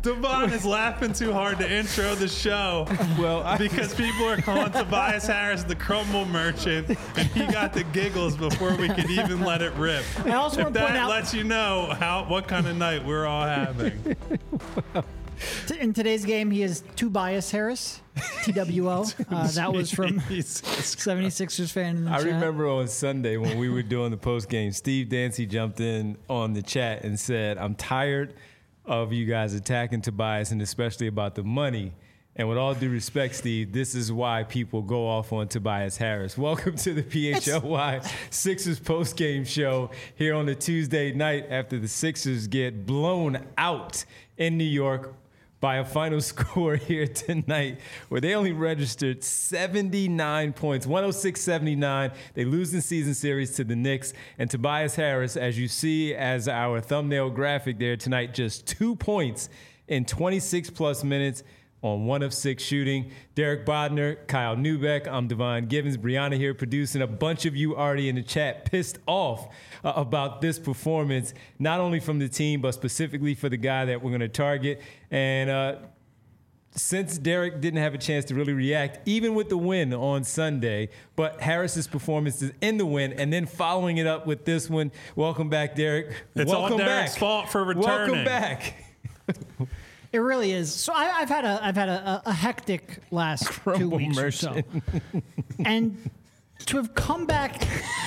Devon is laughing too hard to intro the show. Well, because people are calling Tobias Harris the crumble merchant, and he got the giggles before we could even let it rip. I also If want to point that out, lets you know what kind of night we're all having. in today's game, he is Tobias Harris, TWO. That was from 76ers fan in the I chat. remember on Sunday when we were doing the post game, Steve Dancy jumped in on the chat and said, "I'm tired of you guys attacking Tobias, and especially about the money. And with all due respect, Steve, this is why people go off on Tobias Harris." Welcome to the PHLY Sixers post-game show here on a Tuesday night after the Sixers get blown out in New York by a final score here tonight where they only registered 79 points, 106-79. They lose in season series to the Knicks. And Tobias Harris, as you see as our thumbnail graphic there tonight, just 2 points in 26-plus minutes on 1 of 6 shooting. Derek Bodner, Kyle Newbeck, I'm Devon Givens, Brianna here producing. A bunch of you already in the chat pissed off about this performance, not only from the team, but specifically for the guy that we're going to target. And since Derek didn't have a chance to really react, even with the win on Sunday, but Harris's performance is in the win, and then following it up with this one. Welcome back, Derek. It's Welcome all Derek's back. fault for returning. Welcome back. It really is. So I've had a hectic last 2 weeks or so, and to have come back.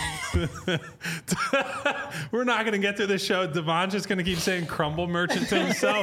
We're not going to get through the show. Devon's just going to keep saying crumble merchant to himself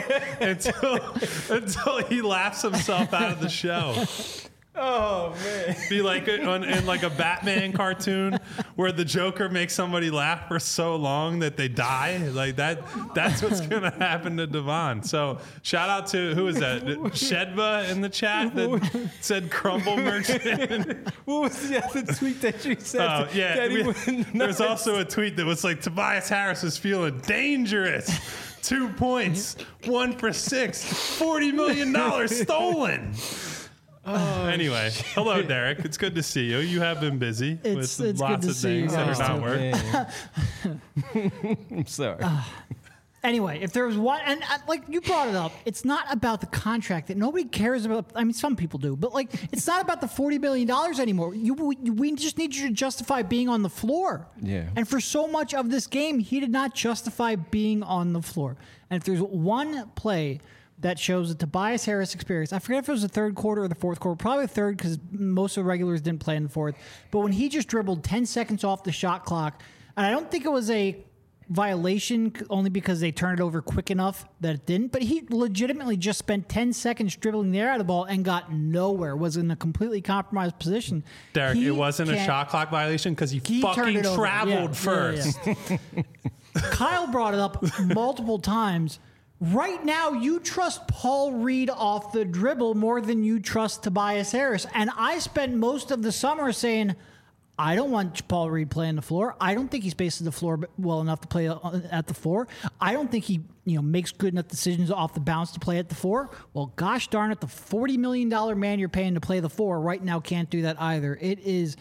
until he laughs himself out of the show. Oh, man. Be like in like a Batman cartoon where the Joker makes somebody laugh for so long that they die. Like that's what's going to happen to Devon. So shout out to, who is that? Shedva in the chat that said crumble merchant. What was the other tweet that you said? There's also a tweet that was like, Tobias Harris is feeling dangerous. 2 points, 1 for 6, $40 million stolen. Anyway, hello, Derek. It's good to see you. You have been busy It's with good lots to of see you things that guys are not working. I'm sorry. Anyway, if there was one, and like you brought it up, it's not about the contract that nobody cares about. I mean, some people do, but like, it's not about the $40 million anymore. We just need you to justify being on the floor. Yeah. And for so much of this game, he did not justify being on the floor. And if there's one play that shows the Tobias Harris experience, I forget if it was the third quarter or the fourth quarter, probably the third because most of the regulars didn't play in the fourth. But when he just dribbled 10 seconds off the shot clock, and I don't think it was a violation only because they turned it over quick enough that it didn't, but he legitimately just spent 10 seconds dribbling the air out of the ball and got nowhere, was in a completely compromised position. Derek, it wasn't a shot clock violation because he fucking traveled first. Yeah. Kyle brought it up multiple times. Right now, you trust Paul Reed off the dribble more than you trust Tobias Harris. And I spent most of the summer saying, I don't want Paul Reed playing the floor. I don't think he spaces the floor well enough to play at the four. I don't think he makes good enough decisions off the bounce to play at the four. Well, gosh darn it, the $40 million man you're paying to play the four right now can't do that either. It's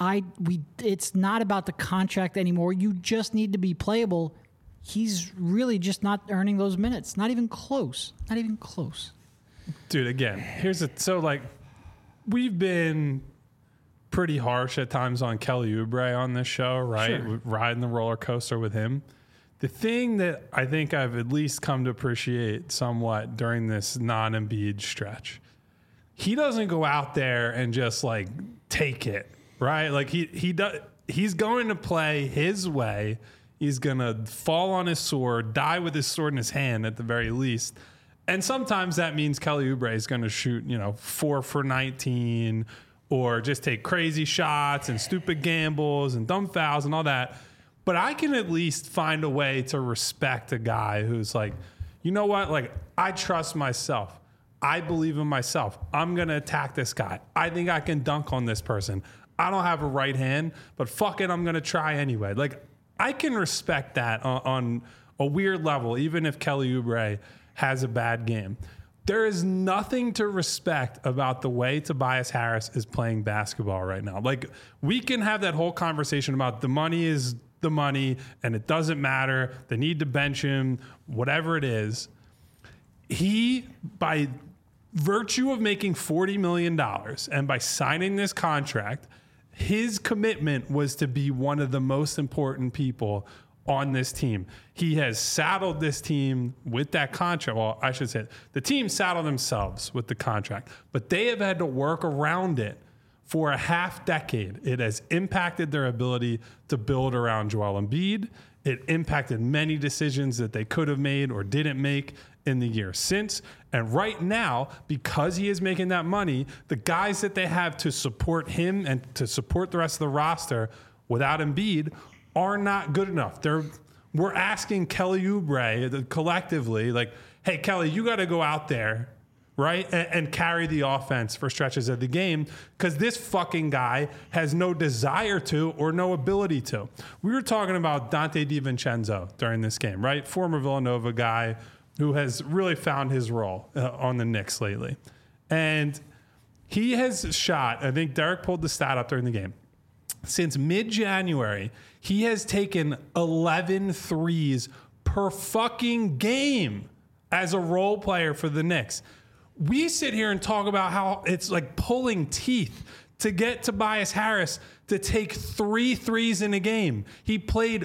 not about the contract anymore. You just need to be playable. He's really just not earning those minutes. Not even close. Not even close. Dude, again, we've been pretty harsh at times on Kelly Oubre on this show, right? Sure. Riding the roller coaster with him. The thing that I think I've at least come to appreciate somewhat during this non-Embiid stretch, he doesn't go out there and just like take it, right? Like he's going to play his way. He's going to fall on his sword, die with his sword in his hand at the very least. And sometimes that means Kelly Oubre is going to shoot, 4 for 19 or just take crazy shots and stupid gambles and dumb fouls and all that. But I can at least find a way to respect a guy who's like, you know what? Like, I trust myself. I believe in myself. I'm going to attack this guy. I think I can dunk on this person. I don't have a right hand, but fuck it, I'm going to try anyway. Like, I can respect that on a weird level, even if Kelly Oubre has a bad game. There is nothing to respect about the way Tobias Harris is playing basketball right now. Like, we can have that whole conversation about the money is the money and it doesn't matter. They need to bench him, whatever it is. he, by virtue of making $40 million and by signing this contract, his commitment was to be one of the most important people on this team. He has saddled this team with that contract. Well, I should say the team saddled themselves with the contract, but they have had to work around it for a half decade. It has impacted their ability to build around Joel Embiid. It impacted many decisions that they could have made or didn't make in the year since. And right now, because he is making that money, the guys that they have to support him and to support the rest of the roster without Embiid are not good enough. We're asking Kelly Oubre collectively, like, hey, Kelly, you got to go out there, right, and carry the offense for stretches of the game because this fucking guy has no desire to or no ability to. We were talking about Dante DiVincenzo during this game, right? Former Villanova guy who has really found his role on the Knicks lately. And he has shot, I think Derek pulled the stat up during the game, since mid-January, he has taken 11 threes per fucking game as a role player for the Knicks. We sit here and talk about how it's like pulling teeth to get Tobias Harris to take 3 threes in a game. He played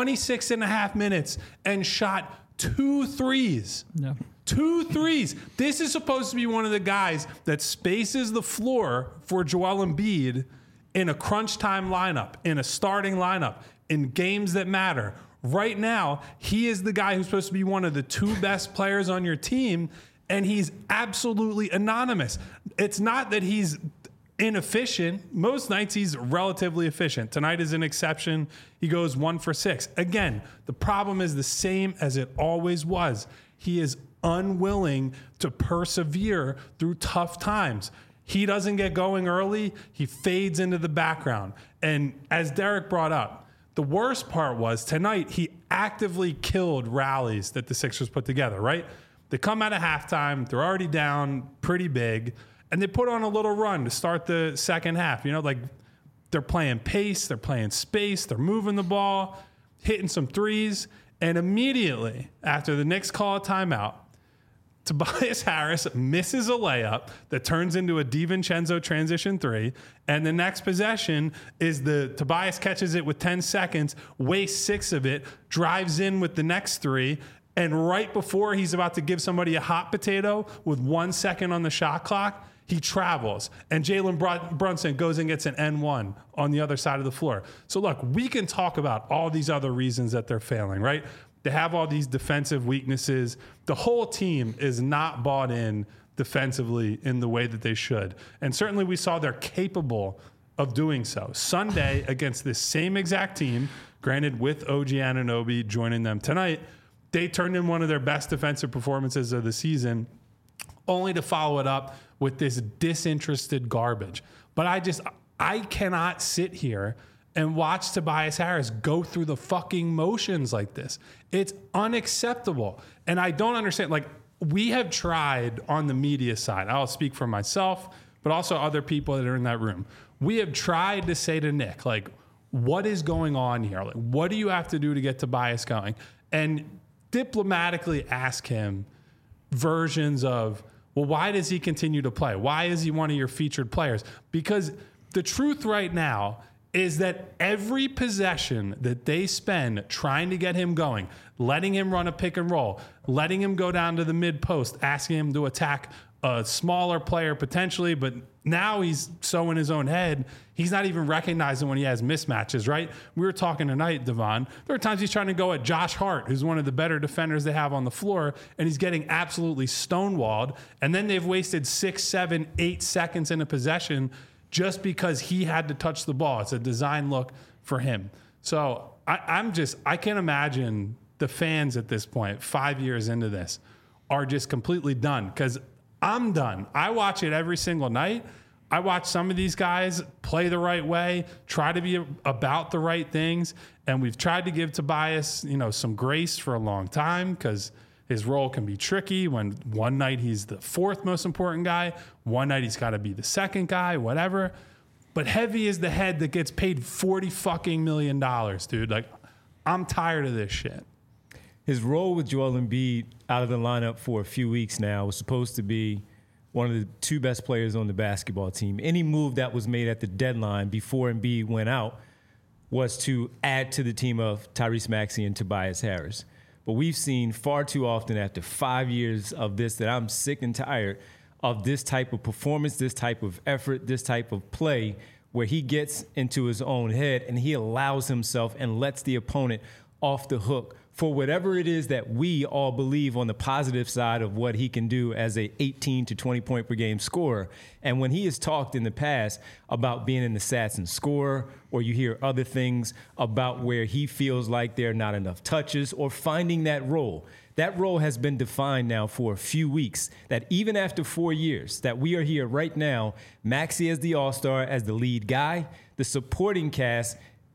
26 and a half minutes and shot 2 threes. No. 2 threes. This is supposed to be one of the guys that spaces the floor for Joel Embiid in a crunch time lineup, in a starting lineup, in games that matter. Right now, he is the guy who's supposed to be one of the 2 best players on your team, and he's absolutely anonymous. It's not that he's inefficient. Most nights he's relatively efficient. Tonight is an exception. He goes 1 for 6. Again, the problem is the same as it always was. He is unwilling to persevere through tough times. He doesn't get going early. He fades into the background. And as Derek brought up, the worst part was tonight he actively killed rallies that the Sixers put together, right? They come out of halftime. They're already down pretty big. And they put on a little run to start the second half. You know, like they're playing pace. They're playing space. They're moving the ball, hitting some threes. And immediately after the Knicks call a timeout, Tobias Harris misses a layup that turns into a DiVincenzo transition 3. And the next possession is Tobias catches it with 10 seconds, wastes 6 of it, drives in with the next 3. And right before he's about to give somebody a hot potato with 1 second on the shot clock, he travels. And Jalen Brunson goes and gets an N1 on the other side of the floor. So look, we can talk about all these other reasons that they're failing, right? They have all these defensive weaknesses. The whole team is not bought in defensively in the way that they should. And certainly we saw they're capable of doing so. Sunday against this same exact team, granted with OG Anunoby joining them tonight, they turned in one of their best defensive performances of the season, only to follow it up with this disinterested garbage. But I cannot sit here and watch Tobias Harris go through the fucking motions like this. It's unacceptable. And I don't understand. Like, we have tried on the media side, I'll speak for myself, but also other people that are in that room. We have tried to say to Nick, like, what is going on here? Like, what do you have to do to get Tobias going? And diplomatically ask him versions of, well, why does he continue to play? Why is he one of your featured players? Because the truth right now is that every possession that they spend trying to get him going, letting him run a pick and roll, letting him go down to the mid post, asking him to attack a smaller player potentially, but now he's so in his own head, he's not even recognizing when he has mismatches, right? We were talking tonight, Devon. There are times he's trying to go at Josh Hart, who's one of the better defenders they have on the floor, and he's getting absolutely stonewalled. And then they've wasted 6, 7, 8 seconds in a possession just because he had to touch the ball. It's a design look for him. So I can't imagine the fans at this point, 5 years into this, are just completely done, because I'm done. I watch it every single night. I watch some of these guys play the right way, try to be about the right things, and we've tried to give Tobias, some grace for a long time, because his role can be tricky when one night he's the 4th most important guy, one night he's got to be the 2nd guy, whatever. But heavy is the head that gets paid $40 fucking million, dude. Like, I'm tired of this shit. his role with Joel Embiid out of the lineup for a few weeks now was supposed to be one of the two best players on the basketball team. Any move that was made at the deadline before Embiid went out was to add to the team of Tyrese Maxey and Tobias Harris. But we've seen far too often after 5 years of this that I'm sick and tired of this type of performance, this type of effort, this type of play where he gets into his own head and he allows himself and lets the opponent off the hook for whatever it is that we all believe on the positive side of what he can do as a 18 to 20 point per game scorer. And when he has talked in the past about being in the stats and score, or you hear other things about where he feels like there are not enough touches or finding that role has been defined now for a few weeks, that even after 4 years that we are here right now, Maxey as the all-star, as the lead guy, the supporting cast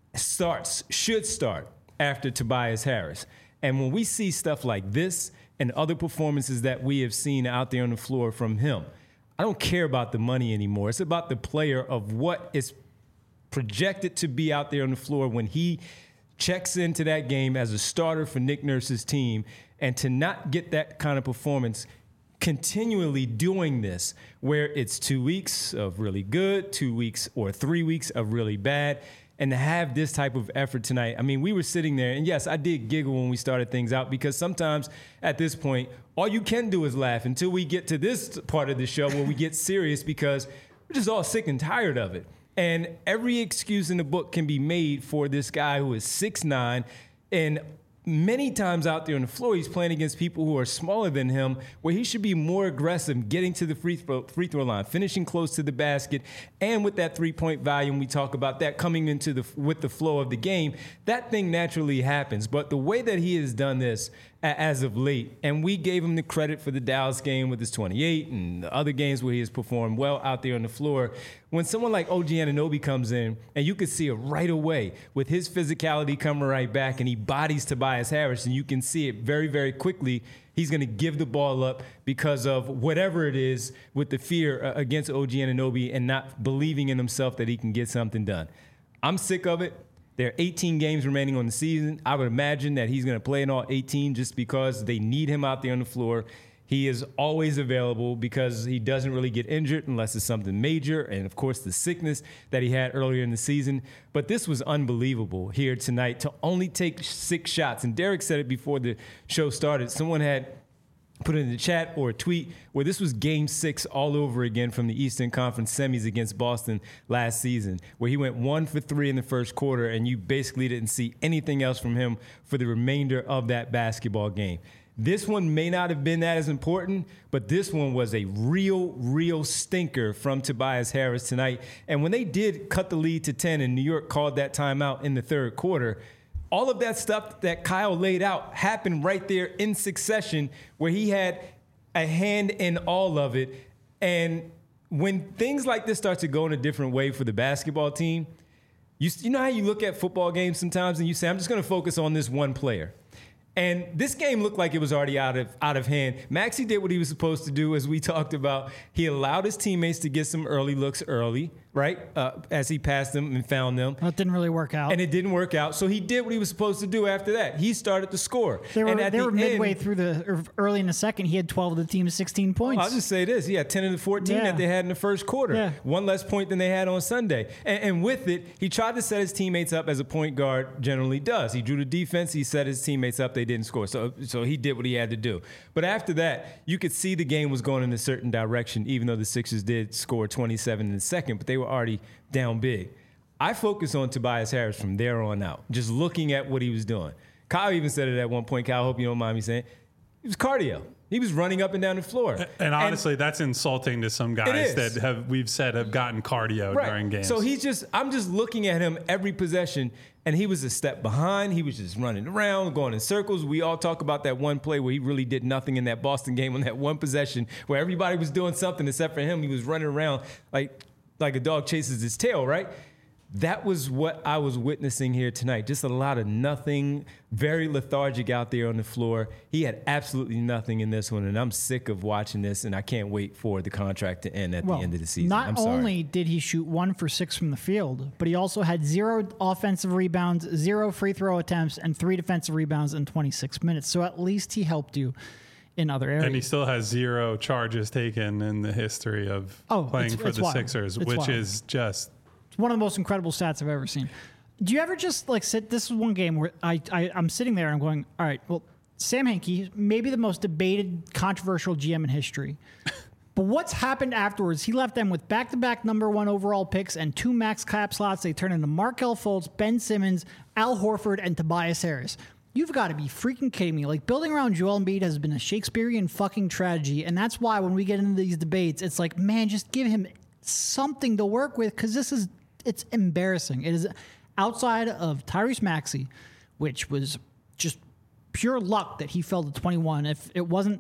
should start after Tobias Harris. And when we see stuff like this and other performances that we have seen out there on the floor from him, I don't care about the money anymore. It's about the player of what is projected to be out there on the floor when he checks into that game as a starter for Nick Nurse's team, and to not get that kind of performance continually doing this, where it's 2 weeks of really good, 2 weeks or 3 weeks of really bad, and to have this type of effort tonight. I mean, we were sitting there, and yes, I did giggle when we started things out, because sometimes at this point, all you can do is laugh until we get to this part of the show where we get serious, because we're just all sick and tired of it. And every excuse in the book can be made for this guy who is 6'9", and many times out there on the floor, he's playing against people who are smaller than him, where he should be more aggressive, getting to the free throw line, finishing close to the basket, and with that three-point volume, we talk about that coming into with the flow of the game, that thing naturally happens. But the way that he has done this as of late, and we gave him the credit for the Dallas game with his 28 and the other games where he has performed well out there on the floor. When someone like OG Anunoby comes in, and you can see it right away with his physicality coming right back, and he bodies Tobias Harris, and you can see it very, very quickly. He's going to give the ball up because of whatever it is with the fear against OG Anunoby and not believing in himself that he can get something done. I'm sick of it. There are 18 games remaining on the season. I would imagine that he's going to play in all 18 just because they need him out there on the floor. He is always available because he doesn't really get injured unless it's something major, and, of course, the sickness that he had earlier in the season. But this was unbelievable here tonight to only take 6 shots. And Derek said it before the show started. Someone had put it in the chat or a tweet where this was game 6 all over again from the Eastern Conference semis against Boston last season, where he went 1 for 3 in the first quarter, and you basically didn't see anything else from him for the remainder of that basketball game. This one may not have been that as important, but this one was a real stinker from Tobias Harris tonight. And when they did cut the lead to 10 and New York called that timeout in the third quarter, all of that stuff that Kyle laid out happened right there in succession, where he had a hand in all of it. And when things like this start to go in a different way for the basketball team, you know how you look at football games sometimes and you say, I'm just going to focus on this one player. And this game looked like it was already out of hand. Maxey did what he was supposed to do, as we talked about. He allowed his teammates to get some early looks early, right, as he passed them and found them. That didn't really work out. And it didn't work out. So he did what he was supposed to do after that. He started to score. They were midway through early in the second. He had 12 of the team's 16 points. I'll just say this. He had 10 of the 14 that they had in the first quarter. Yeah. One less point than they had on Sunday. And with it, he tried to set his teammates up as a point guard generally does. He drew the defense. He set his teammates up. They didn't score. So he did what he had to do. But after that, you could see the game was going in a certain direction, even though the Sixers did score 27 in the second, but they were already down big. I focus on Tobias Harris from there on out, just looking at what he was doing. Kyle even said it at one point. Kyle, I hope you don't mind me saying, it was cardio. He was running up and down the floor. And honestly, that's insulting to some guys that have gotten cardio during games. So I'm just looking at him every possession, and he was a step behind. He was just running around, going in circles. We all talk about that one play where he really did nothing in that Boston game on that one possession where everybody was doing something except for him. He was running around like a dog chases his tail, right? that was what I was witnessing here tonight. Just a lot of nothing, very lethargic out there on the floor. He had absolutely nothing in this one, and I'm sick of watching this, and I can't wait for the contract to end at the end of the season. Not only did he shoot 1 for 6 from the field, but he also had 0 offensive rebounds, 0 free throw attempts, and 3 defensive rebounds in 26 minutes. So at least he helped you in other areas. And he still has 0 charges taken in the history of playing for the Sixers, which is just... one of the most incredible stats I've ever seen. Do you ever just like sit? This is one game where I'm sitting there and I'm going, all right, well, Sam Hinkie, maybe the most debated, controversial GM in history. But what's happened afterwards? He left them with back-to-back #1 overall picks and 2 max cap slots. They turned into Markelle Fultz, Ben Simmons, Al Horford, and Tobias Harris. You've got to be freaking kidding me. Like, building around Joel Embiid has been a Shakespearean fucking tragedy. And that's why when we get into these debates, it's like, man, just give him something to work with, because it's embarrassing. It is outside of Tyrese Maxey, which was just pure luck that he fell to 21. If it wasn't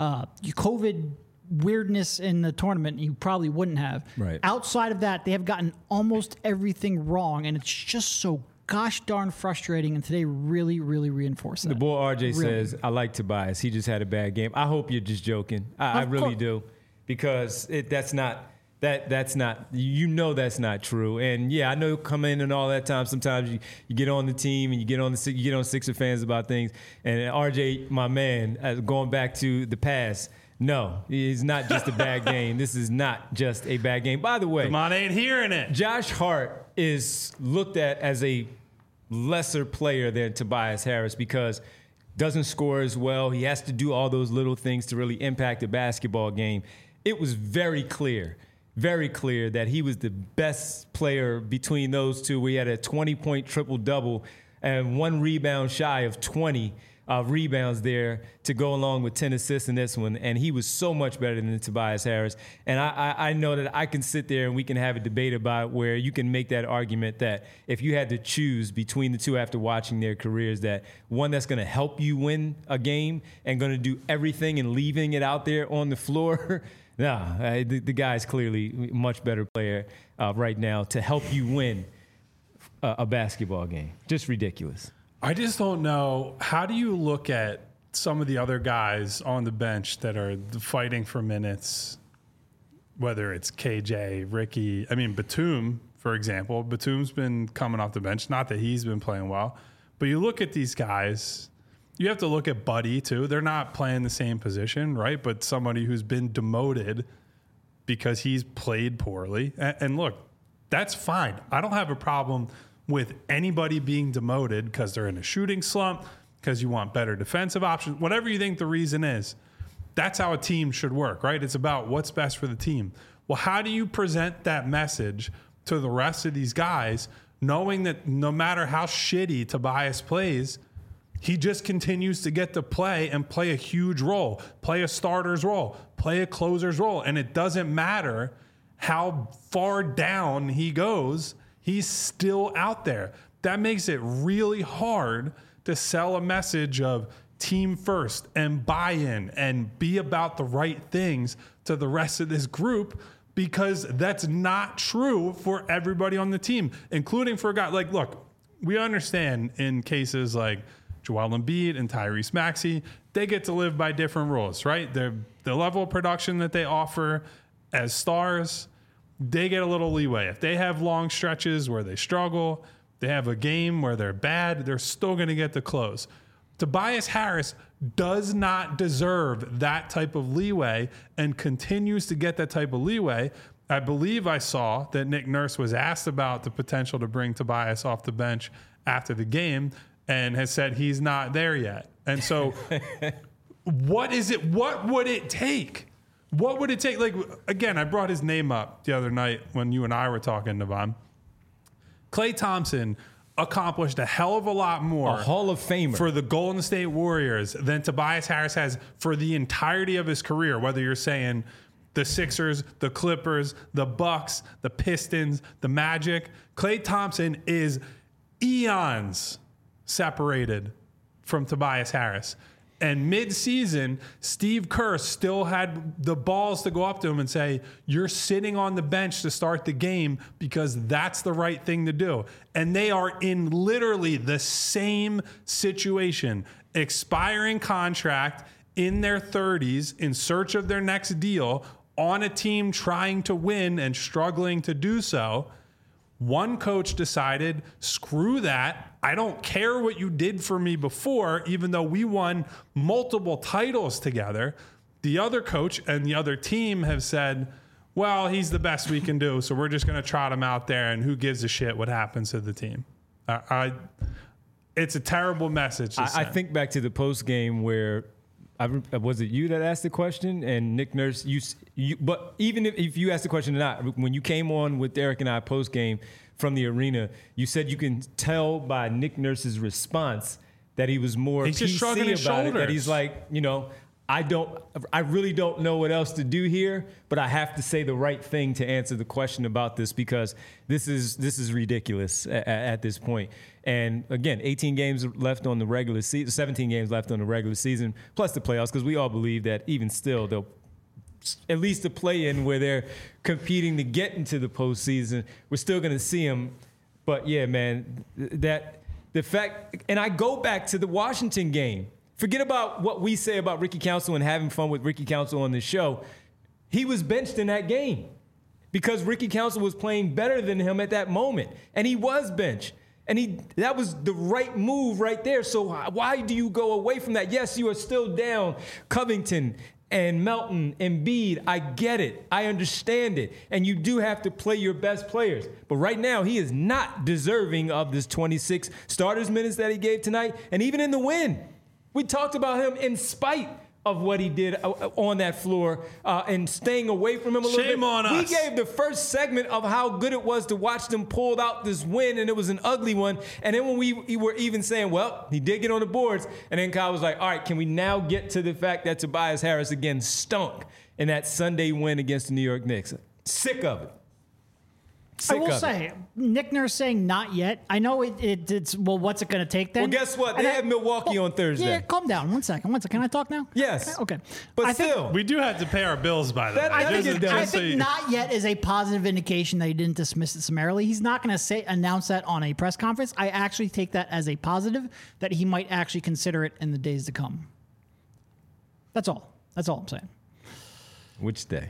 COVID weirdness in the tournament, he probably wouldn't have. Right. Outside of that, they have gotten almost everything wrong, and it's just so gosh darn frustrating, and today really, really reinforced that. The boy RJ says, I like Tobias. He just had a bad game. I hope you're just joking. I really do, because that's not... That's not, that's not true. And yeah, I know come in and all that time. Sometimes you get on the team and you get on Sixer fans about things. And RJ, my man, going back to the past, no, it's not just a bad game. This is not just a bad game. By the way, Demond ain't hearing it. Josh Hart is looked at as a lesser player than Tobias Harris because doesn't score as well. He has to do all those little things to really impact the basketball game. It was very clear that he was the best player between those two. We had a 20-point triple-double and 1 rebound shy of 20 rebounds there to go along with 10 assists in this one. And he was so much better than Tobias Harris. And I know that I can sit there and we can have a debate about where you can make that argument that if you had to choose between the two after watching their careers, that one that's going to help you win a game and going to do everything and leaving it out there on the floor – no, the guy's clearly a much better player right now to help you win a basketball game. Just ridiculous. I just don't know. How do you look at some of the other guys on the bench that are fighting for minutes, whether it's KJ, Ricky, Batum, for example. Batum's been coming off the bench. Not that he's been playing well, but you look at these guys. You have to look at Buddy, too. They're not playing the same position, right? But somebody who's been demoted because he's played poorly. And look, that's fine. I don't have a problem with anybody being demoted because they're in a shooting slump, because you want better defensive options, whatever you think the reason is. That's how a team should work, right? It's about what's best for the team. Well, how do you present that message to the rest of these guys, knowing that no matter how shitty Tobias plays, he just continues to get to play and play a huge role, play a starter's role, play a closer's role. And it doesn't matter how far down he goes, he's still out there. That makes it really hard to sell a message of team first and buy-in and be about the right things to the rest of this group, because that's not true for everybody on the team, including for a guy like, look, we understand in cases like Joel Embiid and Tyrese Maxey, they get to live by different rules, right? The level of production that they offer as stars, they get a little leeway. If they have long stretches where they struggle, they have a game where they're bad, they're still going to get the close. Tobias Harris does not deserve that type of leeway and continues to get that type of leeway. I believe I saw that Nick Nurse was asked about the potential to bring Tobias off the bench after the game, and has said he's not there yet. And so what is it? What would it take? What would it take? Like, again, I brought his name up the other night when you and I were talking, Devon. Klay Thompson accomplished a hell of a lot more. A Hall of Famer. For the Golden State Warriors than Tobias Harris has for the entirety of his career, whether you're saying the Sixers, the Clippers, the Bucks, the Pistons, the Magic. Klay Thompson is eons separated from Tobias Harris. And mid-season, Steve Kerr still had the balls to go up to him and say, you're sitting on the bench to start the game because that's the right thing to do. And they are in literally the same situation, expiring contract in their 30s in search of their next deal on a team trying to win and struggling to do so. One coach decided, screw that. I don't care what you did for me before, even though we won multiple titles together. The other coach and the other team have said, well, he's the best we can do, so we're just going to trot him out there, and who gives a shit what happens to the team? It's a terrible message to I send. think back to the post game where was it you that asked the question? And Nick Nurse, but even if you asked the question or not, when you came on with Derek and I post game from the arena, you said you can tell by Nick Nurse's response that he was more He's just PC shrugging his about it. shoulders. That he's like, I really don't know what else to do here, but I have to say the right thing to answer the question about this because this is ridiculous at this point. And again, 18 games left on the regular season, 17 games left on the regular season, plus the playoffs, because we all believe that even still they'll at least the play-in where they're competing to get into the postseason, we're still going to see them. But yeah, man, that the fact, and I go back to the Washington game. Forget about what we say about Ricky Council and having fun with Ricky Council on the show. He was benched in that game because Ricky Council was playing better than him at that moment, and he was benched. And that was the right move right there. So why do you go away from that? Yes, you are still down Covington and Melton and Embiid. I get it. I understand it. And you do have to play your best players. But right now, he is not deserving of this 26 starters minutes that he gave tonight. And even in the win, we talked about him in spite of what he did on that floor and staying away from him a little bit. Shame on us. We gave the first segment of how good it was to watch them pull out this win, and it was an ugly one. And then when we were even saying, well, he did get on the boards, and then Kyle was like, all right, can we now get to the fact that Tobias Harris again stunk in that Sunday win against the New York Knicks? Sick of it. I will say, Nick Nurse saying not yet. I know it's, well, what's it going to take then? Well, guess what? They have Milwaukee on Thursday. Yeah, calm down. One second. Can I talk now? Yes. Okay. But I think- still. We do have to pay our bills by the way. I think not yet is a positive indication that he didn't dismiss it summarily. He's not going to announce that on a press conference. I actually take that as a positive that he might actually consider it in the days to come. That's all. That's all I'm saying. Which day?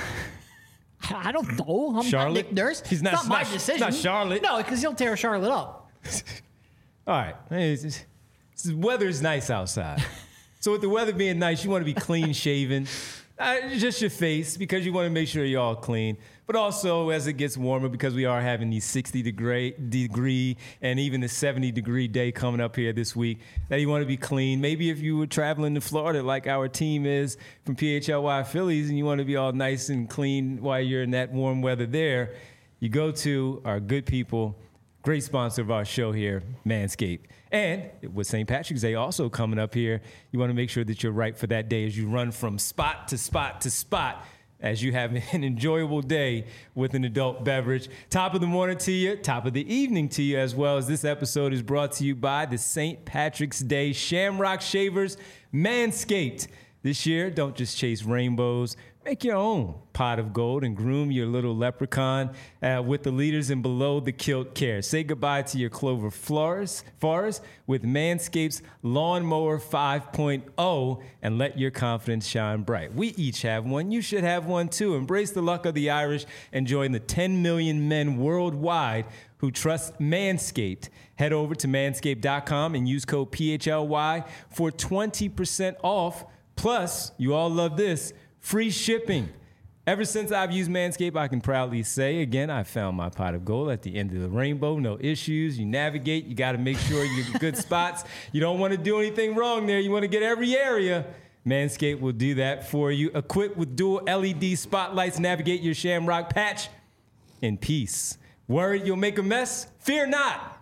I don't know. I'm Charlotte? not Nick Nurse. He's not- it's not my it's not- decision. it's not Charlotte. No, because he'll tear Charlotte up. All right. The weather's nice outside. So with the weather being nice, you want to be clean shaven. Just your face, because you want to make sure you're all clean. But also, as it gets warmer, because we are having these 60-degree and even the 70-degree day coming up here this week, that you want to be clean. Maybe if you were traveling to Florida like our team is from PHLY Phillies and you want to be all nice and clean while you're in that warm weather there, you go to our good people, great sponsor of our show here, Manscaped. And with St. Patrick's Day also coming up here, you want to make sure that you're right for that day as you run from spot to spot to spot as you have an enjoyable day with an adult beverage. Top of the morning to you, top of the evening to you as well, as this episode is brought to you by the St. Patrick's Day Shamrock Shavers Manscaped. This year, don't just chase rainbows. Make your own pot of gold and groom your little leprechaun with the leaders in below the kilt care. Say goodbye to your Clover forest with Manscaped's Lawnmower 5.0 and let your confidence shine bright. We each have one. You should have one too. Embrace the luck of the Irish and join the 10 million men worldwide who trust Manscaped. Head over to manscaped.com and use code PHLY for 20% off. Plus, you all love this, free shipping. Ever since I've used Manscaped, I can proudly say, again, I found my pot of gold at the end of the rainbow. No issues. You navigate. You got to make sure you're in good spots. You don't want to do anything wrong there. You want to get every area. Manscaped will do that for you. Equipped with dual LED spotlights, navigate your shamrock patch in peace. Worried you'll make a mess? Fear not.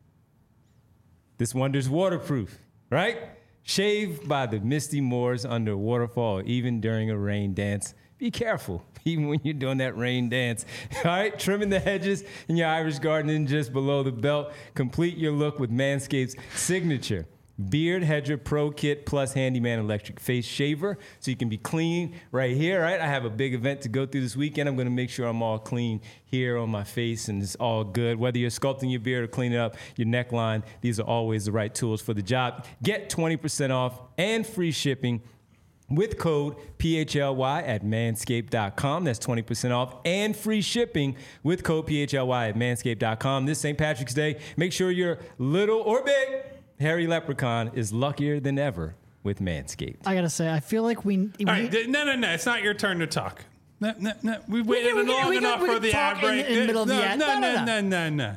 This wonder's waterproof, right? Shave by the misty moors under a waterfall, even during a rain dance. Be careful, even when you're doing that rain dance. All right, trimming the hedges in your Irish garden and just below the belt. Complete your look with Manscaped's signature Beard Hedger Pro Kit plus Handyman Electric Face Shaver, so you can be clean right here, right? I have a big event to go through this weekend. I'm going to make sure I'm all clean here on my face and it's all good. Whether you're sculpting your beard or cleaning up your neckline, these are always the right tools for the job. Get 20% off and free shipping with code PHLY at manscaped.com. That's 20% off and free shipping with code PHLY at manscaped.com. This St. Patrick's Day, make sure your little or big hairy leprechaun is luckier than ever with Manscaped. I gotta say, I feel like we All right, no. It's not your turn to talk. No. We've waited long enough for the ad break. In the middle of the ad. No.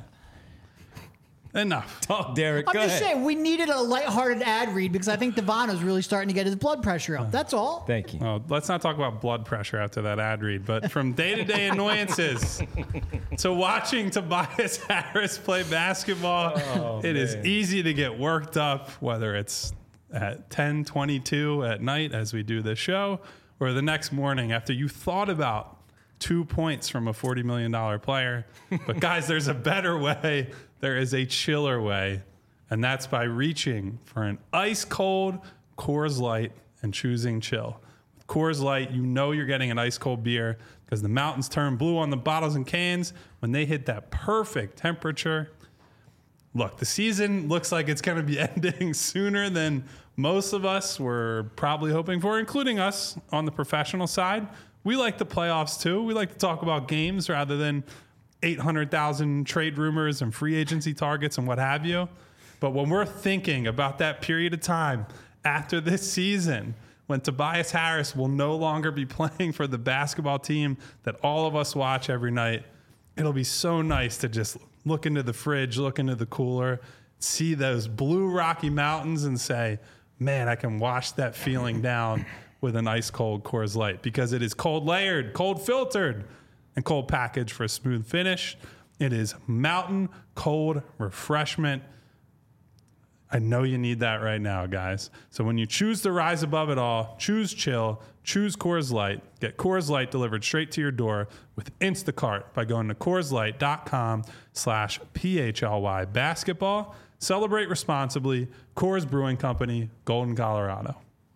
Enough. Talk, Derek. I'm Go just ahead. saying, we needed a lighthearted ad read because I think Devano's really starting to get his blood pressure up. That's all. Thank you. Well, let's not talk about blood pressure after that ad read, but from day-to-day annoyances to watching Tobias Harris play basketball, it is easy to get worked up, whether it's at 10:22 at night as we do this show, or the next morning after you thought about 2 points from a $40 million player. But guys, there's a better way. There is a chiller way, and that's by reaching for an ice-cold Coors Light and choosing chill. With Coors Light, you know you're getting an ice-cold beer because the mountains turn blue on the bottles and cans when they hit that perfect temperature. Look, the season looks like it's going to be ending sooner than most of us were probably hoping for, including us on the professional side. We like the playoffs, too. We like to talk about games rather than 800,000 trade rumors and free agency targets and what have you. But when we're thinking about that period of time after this season, when Tobias Harris will no longer be playing for the basketball team that all of us watch every night, it'll be so nice to just look into the fridge, look into the cooler, see those blue Rocky Mountains and say, man, I can wash that feeling down with an ice cold Coors Light because it is cold layered, cold filtered, and cold packaged for a smooth finish. It is mountain cold refreshment. I know you need that right now, guys. So when you choose to rise above it all, choose chill, choose Coors Light. Get Coors Light delivered straight to your door with Instacart by going to CoorsLight.com/PHLY basketball. Celebrate responsibly. Coors Brewing Company, Golden, Colorado.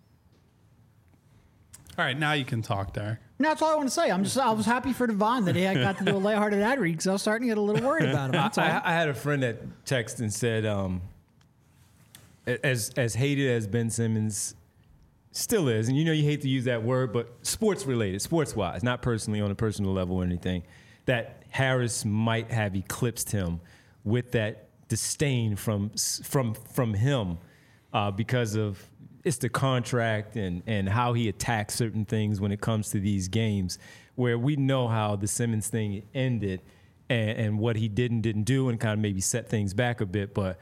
All right, now you can talk, Derek. No, that's all I want to say. I was happy for Devon that I got to do a lighthearted ad read because I was starting to get a little worried about him. That's all. I had a friend that texted and said, as hated as Ben Simmons still is, and you know you hate to use that word, but sports-related, sports-wise, not personally on a personal level or anything, that Harris might have eclipsed him with that disdain from him because of it's the contract and how he attacks certain things when it comes to these games, where we know how the Simmons thing ended and what he didn't do and kind of maybe set things back a bit. But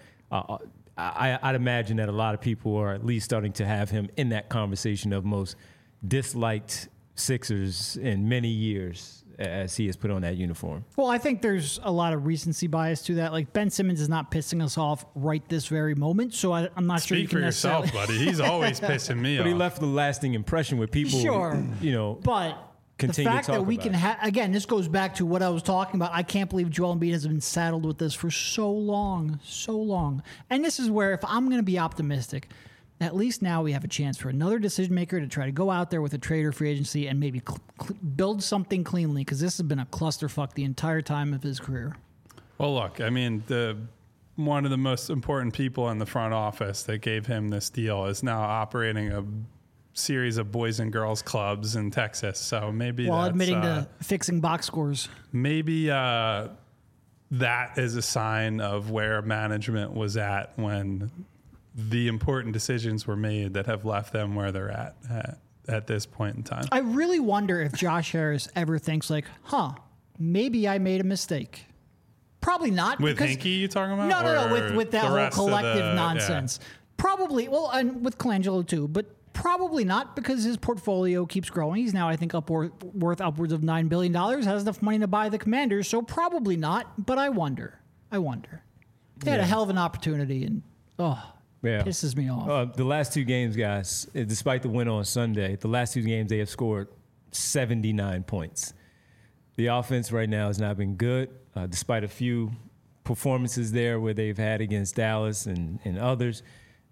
I'd imagine that a lot of people are at least starting to have him in that conversation of most disliked Sixers in many years as he has put on that uniform. Well, I think there's a lot of recency bias to that. Like, Ben Simmons is not pissing us off right this very moment, so I'm not sure you Speak can for yourself, buddy. He's always pissing me off. But he left a lasting impression with people, Sure. you know. But the Continue to fact that talk we about can it. again, this goes back to what I was talking about. I can't believe Joel Embiid has been saddled with this for so long. And this is where, if I'm going to be optimistic, at least now we have a chance for another decision maker to try to go out there with a trade or free agency and maybe build something cleanly, because this has been a clusterfuck the entire time of his career. Well, look, I mean, one of the most important people in the front office that gave him this deal is now operating a series of boys and girls clubs in Texas. So maybe While that's, admitting to fixing box scores. maybe that is a sign of where management was at when the important decisions were made that have left them where they're at this point in time. I really wonder if Josh Harris ever thinks like, maybe I made a mistake. Probably not. With because, Hinkie, you talking about? No, with that the whole rest of collective nonsense. Yeah. Probably, well, and with Colangelo too, but probably not, because his portfolio keeps growing. He's now, I think, worth upwards of $9 billion, has enough money to buy the Commanders, so probably not, but I wonder. They had a hell of an opportunity, and pisses me off. The last two games, guys, despite the win on Sunday, the last two games they have scored 79 points. The offense right now has not been good, despite a few performances there where they've had against Dallas and others.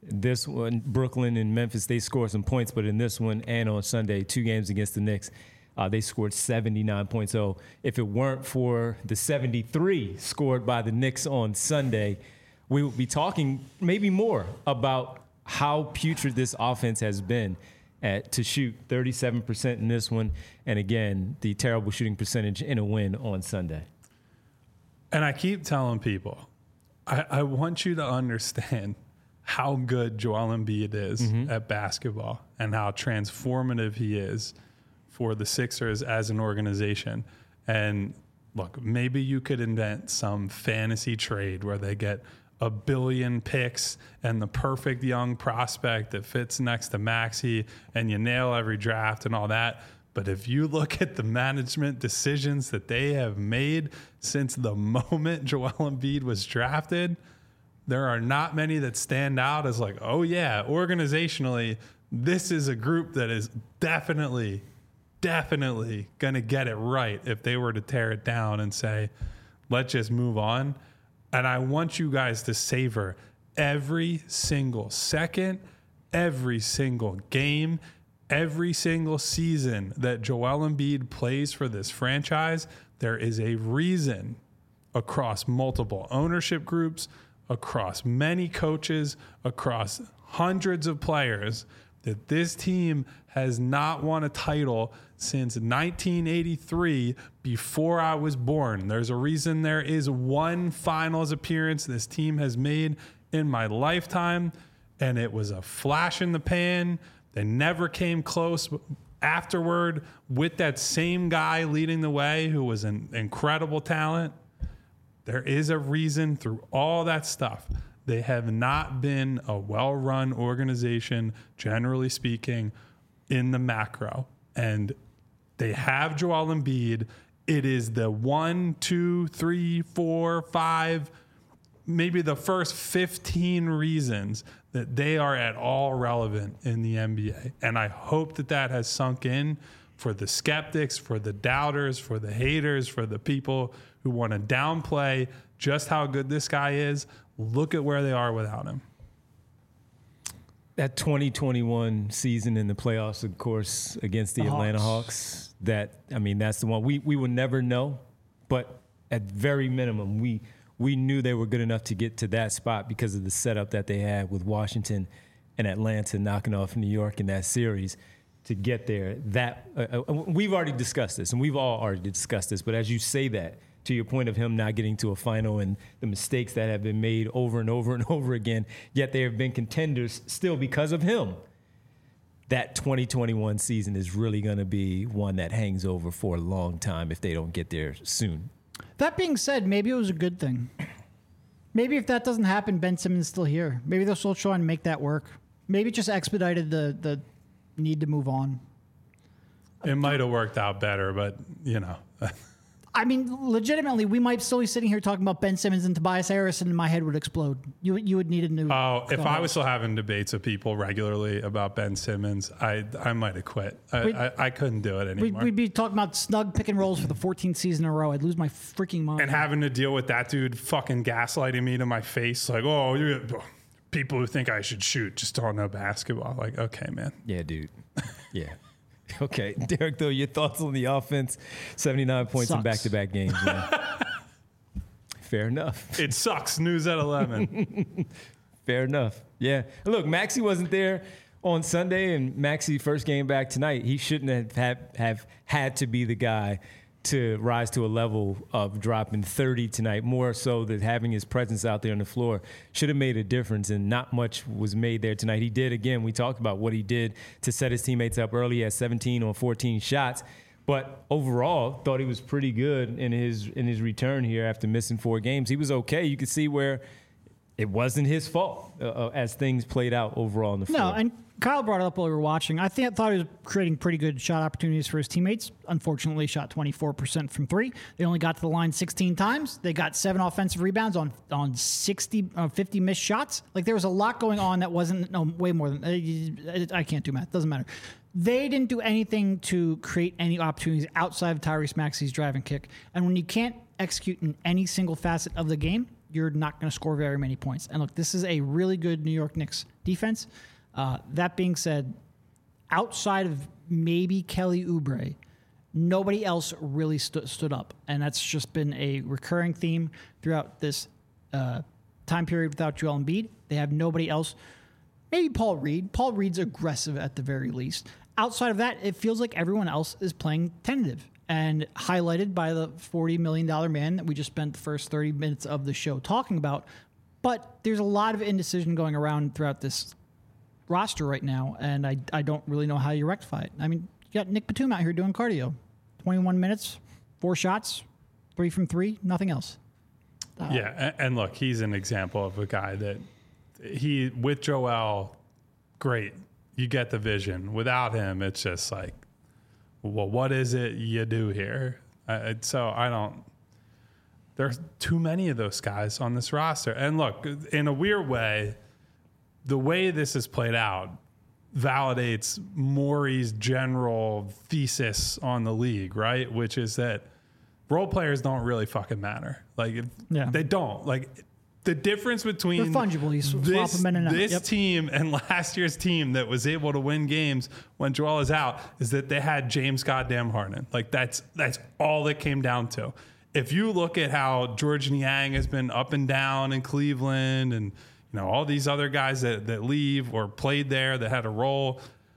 This one, Brooklyn and Memphis, they scored some points, but in this one and on Sunday, 2 games against the Knicks, they scored 79 points. So if it weren't for the 73 scored by the Knicks on Sunday, we would be talking maybe more about how putrid this offense has been to shoot 37% in this one. And again, the terrible shooting percentage in a win on Sunday. And I keep telling people, I want you to understand how good Joel Embiid is at basketball and how transformative he is for the Sixers as an organization. And look, maybe you could invent some fantasy trade where they get 1 billion picks and the perfect young prospect that fits next to Maxey, and you nail every draft and all that. But if you look at the management decisions that they have made since the moment Joel Embiid was drafted, there are not many that stand out as like, oh yeah, organizationally, this is a group that is definitely going to get it right if they were to tear it down and say, let's just move on. And I want you guys to savor every single second, every single game, every single season that Joel Embiid plays for this franchise. There is a reason across multiple ownership groups, across many coaches, across hundreds of players, that this team has not won a title since 1983, before I was born. There's a reason there is one finals appearance this team has made in my lifetime, and it was a flash in the pan. They never came close afterward with that same guy leading the way who was an incredible talent. There is a reason through all that stuff. They have not been a well-run organization, generally speaking, in the macro. And they have Joel Embiid. It is the 1, 2, 3, 4, 5, maybe the first 15 reasons that they are at all relevant in the NBA. And I hope that that has sunk in for the skeptics, for the doubters, for the haters, for the people who want to downplay just how good this guy is. Look at where they are without him. That 2021 season in the playoffs, of course, against the Atlanta Hawks, that's the one we will never know. But at very minimum, we knew they were good enough to get to that spot because of the setup that they had with Washington and Atlanta knocking off New York in that series to get there. That we've already discussed this, and we've all already discussed this. But as you say that, to your point of him not getting to a final and the mistakes that have been made over and over and over again, yet they have been contenders still because of him. That 2021 season is really going to be one that hangs over for a long time if they don't get there soon. That being said, maybe it was a good thing. Maybe if that doesn't happen, Ben Simmons is still here. Maybe they'll still try and make that work. Maybe it just expedited the need to move on. It might have worked out better, but, you know. I mean, legitimately, we might still be sitting here talking about Ben Simmons and Tobias Harris, and my head would explode. You would need a new. Oh, if I was still having debates with people regularly about Ben Simmons, I might have quit. I couldn't do it anymore. We'd be talking about snug pick and rolls for the 14th season in a row. I'd lose my freaking mind. And having to deal with that dude fucking gaslighting me to my face, like, oh, people who think I should shoot just don't know basketball. Like, okay, man. Yeah, dude. Yeah. Okay, Derek, though, your thoughts on the offense? 79 points in back-to-back games. Man. Fair enough. It sucks. News at 11. Fair enough. Yeah. Look, Maxey wasn't there on Sunday, and Maxey first game back tonight. He shouldn't have had to be the guy to rise to a level of dropping 30 tonight, more so that having his presence out there on the floor should have made a difference, and not much was made there tonight. He did, again, we talked about what he did to set his teammates up early at 17 on 14 shots, but overall thought he was pretty good in his return here after missing 4 games. He was okay. You could see where it wasn't his fault as things played out overall on the floor. No, and Kyle brought it up while we were watching. I thought he was creating pretty good shot opportunities for his teammates. Unfortunately, shot 24% from 3. They only got to the line 16 times. They got 7 offensive rebounds on 50 missed shots. Like, there was a lot going on that wasn't way more than I can't do math. Doesn't matter. They didn't do anything to create any opportunities outside of Tyrese Maxey's drive and kick. And when you can't execute in any single facet of the game, you're not going to score very many points. And look, this is a really good New York Knicks defense. That being said, outside of maybe Kelly Oubre, nobody else really stood up. And that's just been a recurring theme throughout this time period without Joel Embiid. They have nobody else. Maybe Paul Reed. Paul Reed's aggressive at the very least. Outside of that, it feels like everyone else is playing tentative. And highlighted by the $40 million man that we just spent the first 30 minutes of the show talking about. But there's a lot of indecision going around throughout this roster right now, and I don't really know how you rectify it. I mean, you got Nick Batum out here doing cardio. 21 minutes, 4 shots, 3 from 3, nothing else. And look, he's an example of a guy that with Joel, great. You get the vision. Without him, it's just like, well, what is it you do here? There's too many of those guys on this roster. And look, in a weird way, the way this is played out validates Morey's general thesis on the league, right? Which is that role players don't really fucking matter. Like, they don't. Like, the difference between they're fungible. You swap them in and out. This team and last year's team that was able to win games when Joel is out is that they had James goddamn Harden. Like, that's all it came down to. If you look at how George Niang has been up and down in Cleveland, and all these other guys that leave or played there that had a role,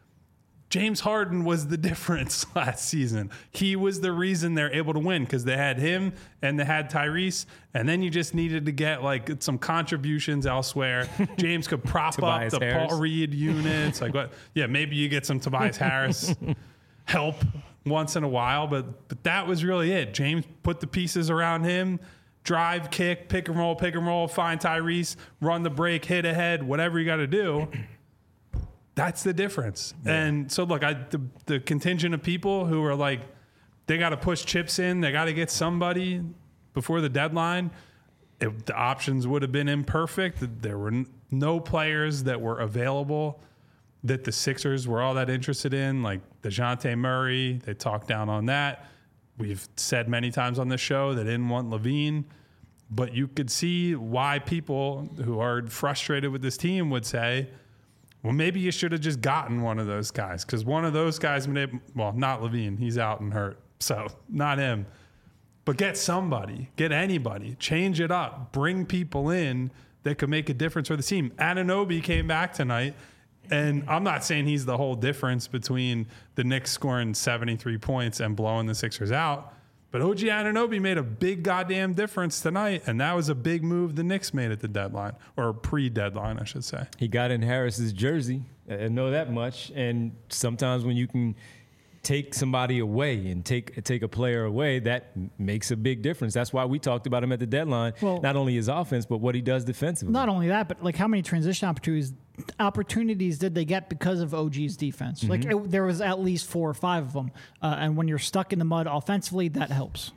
James Harden was the difference last season. He was the reason they're able to win because they had him and they had Tyrese, and then you just needed to get like some contributions elsewhere. James could prop up the Harris. Paul Reed units. Like what? Yeah, maybe you get some Tobias Harris help once in a while, but that was really it. James put the pieces around him. Drive, kick, pick and roll, find Tyrese, run the break, hit ahead, whatever you got to do. That's the difference. Yeah. And so, look, the contingent of people who are like, they got to push chips in, they got to get somebody before the deadline. The options would have been imperfect. There were no players that were available that the Sixers were all that interested in, like DeJounte Murray. They talked down on that. We've said many times on this show they didn't want LaVine, but you could see why people who are frustrated with this team would say, well, maybe you should have just gotten one of those guys, because one of those guys, well, not LaVine, he's out and hurt, so not him. But get somebody, get anybody, change it up, bring people in that could make a difference for the team. Anunoby came back tonight. And I'm not saying he's the whole difference between the Knicks scoring 73 points and blowing the Sixers out. But OG Anunoby made a big goddamn difference tonight. And that was a big move the Knicks made at the deadline, or pre-deadline, I should say. He got in Harris's jersey. I know that much. And sometimes when you can take somebody away and take a player away, that makes a big difference. That's why we talked about him at the deadline. Well, not only his offense, but what he does defensively. Not only that, but like how many transition opportunities did they get because of OG's defense? Mm-hmm. Like there was at least 4 or 5 of them. And when you're stuck in the mud offensively, that helps.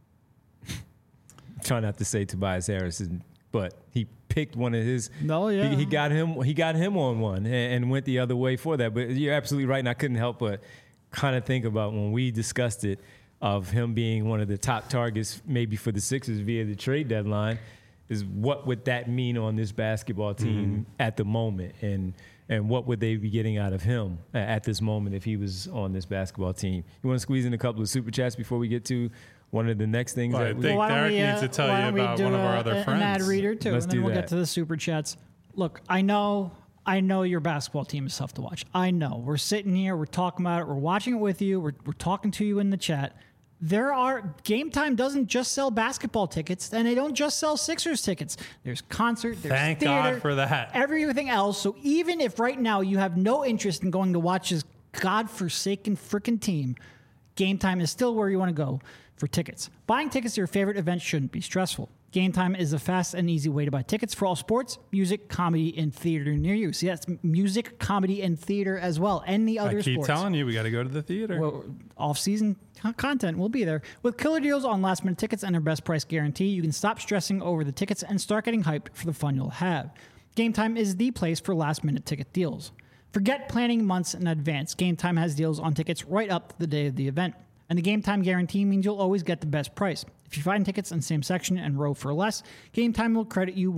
Try not to say Tobias Harris, but he picked one of his. No, yeah. He got him on one and went the other way for that. But you're absolutely right, and I couldn't help but kind of think about when we discussed it, of him being one of the top targets maybe for the Sixers via the trade deadline, is what would that mean on this basketball team at the moment, and what would they be getting out of him at this moment if he was on this basketball team? You want to squeeze in a couple of super chats before we get to one of the next things? Well, I think Derek needs to tell you about one of our other friends. An ad reader too, Let's and then we'll that. get to the super chats. Look, I know your basketball team is tough to watch. I know. We're sitting here, we're talking about it, we're watching it with you, we're talking to you in the chat. Game Time doesn't just sell basketball tickets, and they don't just sell Sixers tickets. There's concert, there's Thank theater, God for that. everything else. So even if right now you have no interest in going to watch this godforsaken freaking team, Game Time is still where you want to go for tickets. Buying tickets to your favorite event shouldn't be stressful. Game Time is a fast and easy way to buy tickets for all sports, music, comedy, and theater near you. See, that's music, comedy, and theater as well, and the other sports. I keep telling you, we got to go to the theater. Well, off-season content will be there. With killer deals on last-minute tickets and their best price guarantee, you can stop stressing over the tickets and start getting hyped for the fun you'll have. Game Time is the place for last-minute ticket deals. Forget planning months in advance. Game Time has deals on tickets right up to the day of the event. And the Game Time guarantee means you'll always get the best price. If If you find tickets in the same section and row for less, Game Time will credit you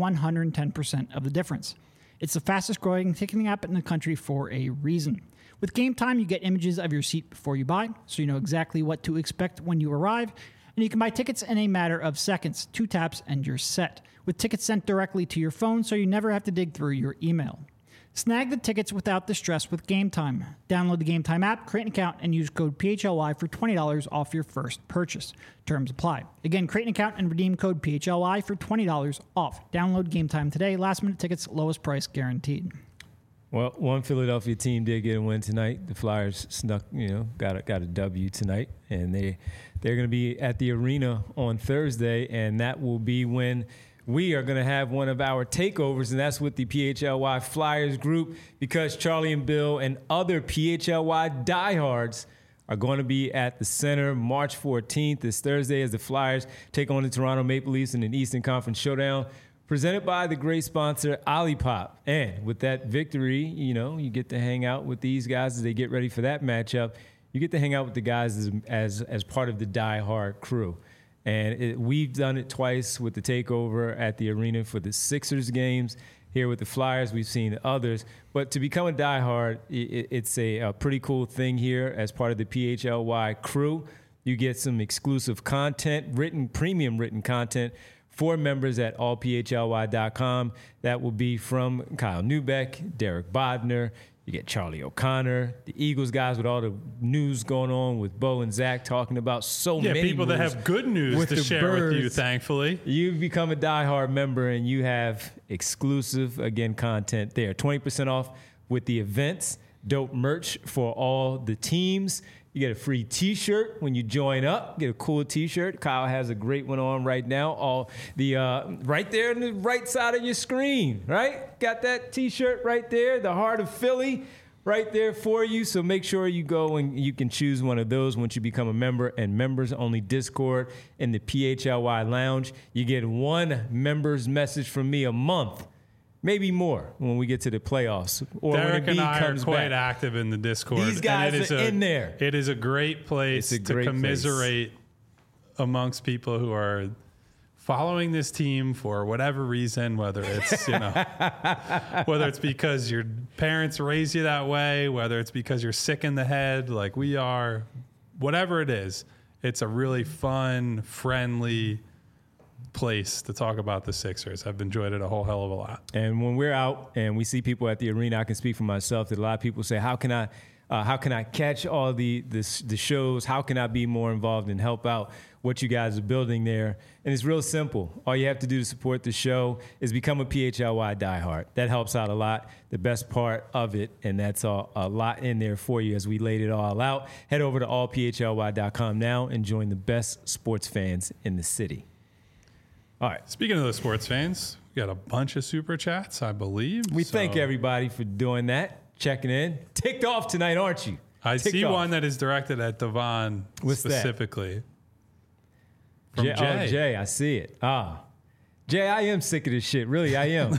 110% of the difference. It's the fastest growing ticketing app in the country for a reason. With Game Time, you get images of your seat before you buy, so you know exactly what to expect when you arrive. And you can buy tickets in a matter of seconds, 2 taps, and you're set. With tickets sent directly to your phone, so you never have to dig through your email. Snag the tickets without the stress with Game Time. Download the Game Time app, create an account, and use code PHLY for $20 off your first purchase. Terms apply. Again, create an account and redeem code PHLY for $20 off. Download Game Time today. Last minute tickets, lowest price guaranteed. Well, one Philadelphia team did get a win tonight. The Flyers snuck, got a W tonight, and they're going to be at the arena on Thursday, and that will be when we are going to have one of our takeovers, and that's with the PHLY Flyers group, because Charlie and Bill and other PHLY diehards are going to be at the Center March 14th, this Thursday, as the Flyers take on the Toronto Maple Leafs in an Eastern Conference showdown, presented by the great sponsor Olipop. And with that victory, you get to hang out with these guys as they get ready for that matchup. You get to hang out with the guys as part of the Die Hard crew. And we've done it twice with the takeover at the arena for the Sixers games. Here with the Flyers, we've seen others. But to become a Die Hard, it's a pretty cool thing here as part of the PHLY crew. You get some exclusive content, premium written content for members at allphly.com. That will be from Kyle Neubeck, Derek Bodner. You get Charlie O'Connor, the Eagles guys with all the news going on with Bo and Zach talking about many people that have good news to share with you, thankfully. You've become a diehard member and you have exclusive, content there. 20% off with the events, dope merch for all the teams. You get a free T-shirt when you join up. Get a cool T-shirt. Kyle has a great one on right now. All the right there on the right side of your screen, right? Got that T-shirt right there. The Heart of Philly right there for you. So make sure you go and you can choose one of those once you become a member. And members only Discord in the PHLY Lounge. You get one member's message from me a month. Maybe more when we get to the playoffs. Or Derek when and I are quite back. active in the Discord. These guys are in there. It is a great place to commiserate amongst people who are following this team for whatever reason, whether it's whether it's because your parents raised you that way, whether it's because you're sick in the head like we are, whatever it is. It's a really fun, friendly place to talk about the Sixers. I've enjoyed it a whole hell of a lot. And when we're out and we see people at the arena, I can speak for myself that a lot of people say, how can I catch all the shows? How can I be more involved and help out what you guys are building there? And it's real simple. All you have to do to support the show is become a PHLY diehard. That helps out a lot. The best part of it, and that's a lot in there for you as we laid it all out. Head over to allphly.com now and join the best sports fans in the city. All right. Speaking of the sports fans, we got a bunch of super chats, I believe. We thank everybody for doing that, checking in. Ticked off tonight, aren't you? I see one that is directed at Devon specifically. From Jay. Oh, Jay, I see it. Jay, I am sick of this shit. Really, I am.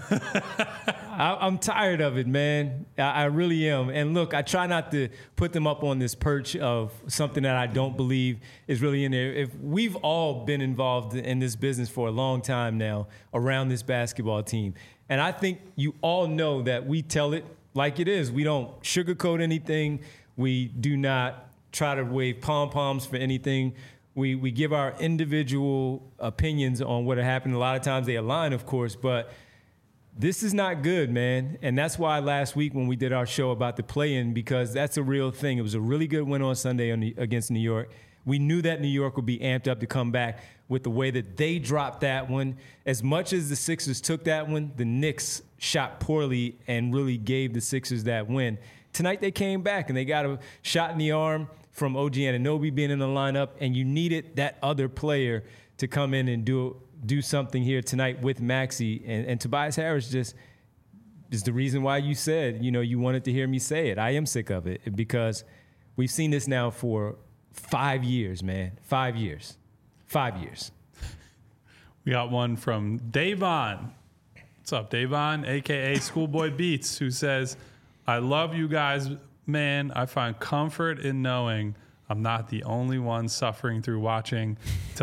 I'm tired of it, man. I really am. And look, I try not to put them up on this perch of something that I don't believe is really in there. If we've all been involved in this business for a long time now around this basketball team, and I think you all know that we tell it like it is. We don't sugarcoat anything. We do not try to wave pom-poms for anything. We give our individual opinions on what happened. A lot of times they align, of course, but this is not good, man. And that's why last week when we did our show about the play-in, because that's a real thing. It was a really good win on Sunday against New York. We knew that New York would be amped up to come back with the way that they dropped that one. As much as the Sixers took that one, the Knicks shot poorly and really gave the Sixers that win. Tonight they came back and they got a shot in the arm from OG Anunoby being in the lineup, and you needed that other player to come in and do something here tonight with Maxey. And Tobias Harris just is the reason why you said, you wanted to hear me say it. I am sick of it because we've seen this now for 5 years, man. 5 years. 5 years. We got one from Davon. What's up, Davon, a.k.a. Schoolboy Beats, who says, I love you guys, man. I find comfort in knowing I'm not the only one suffering through watching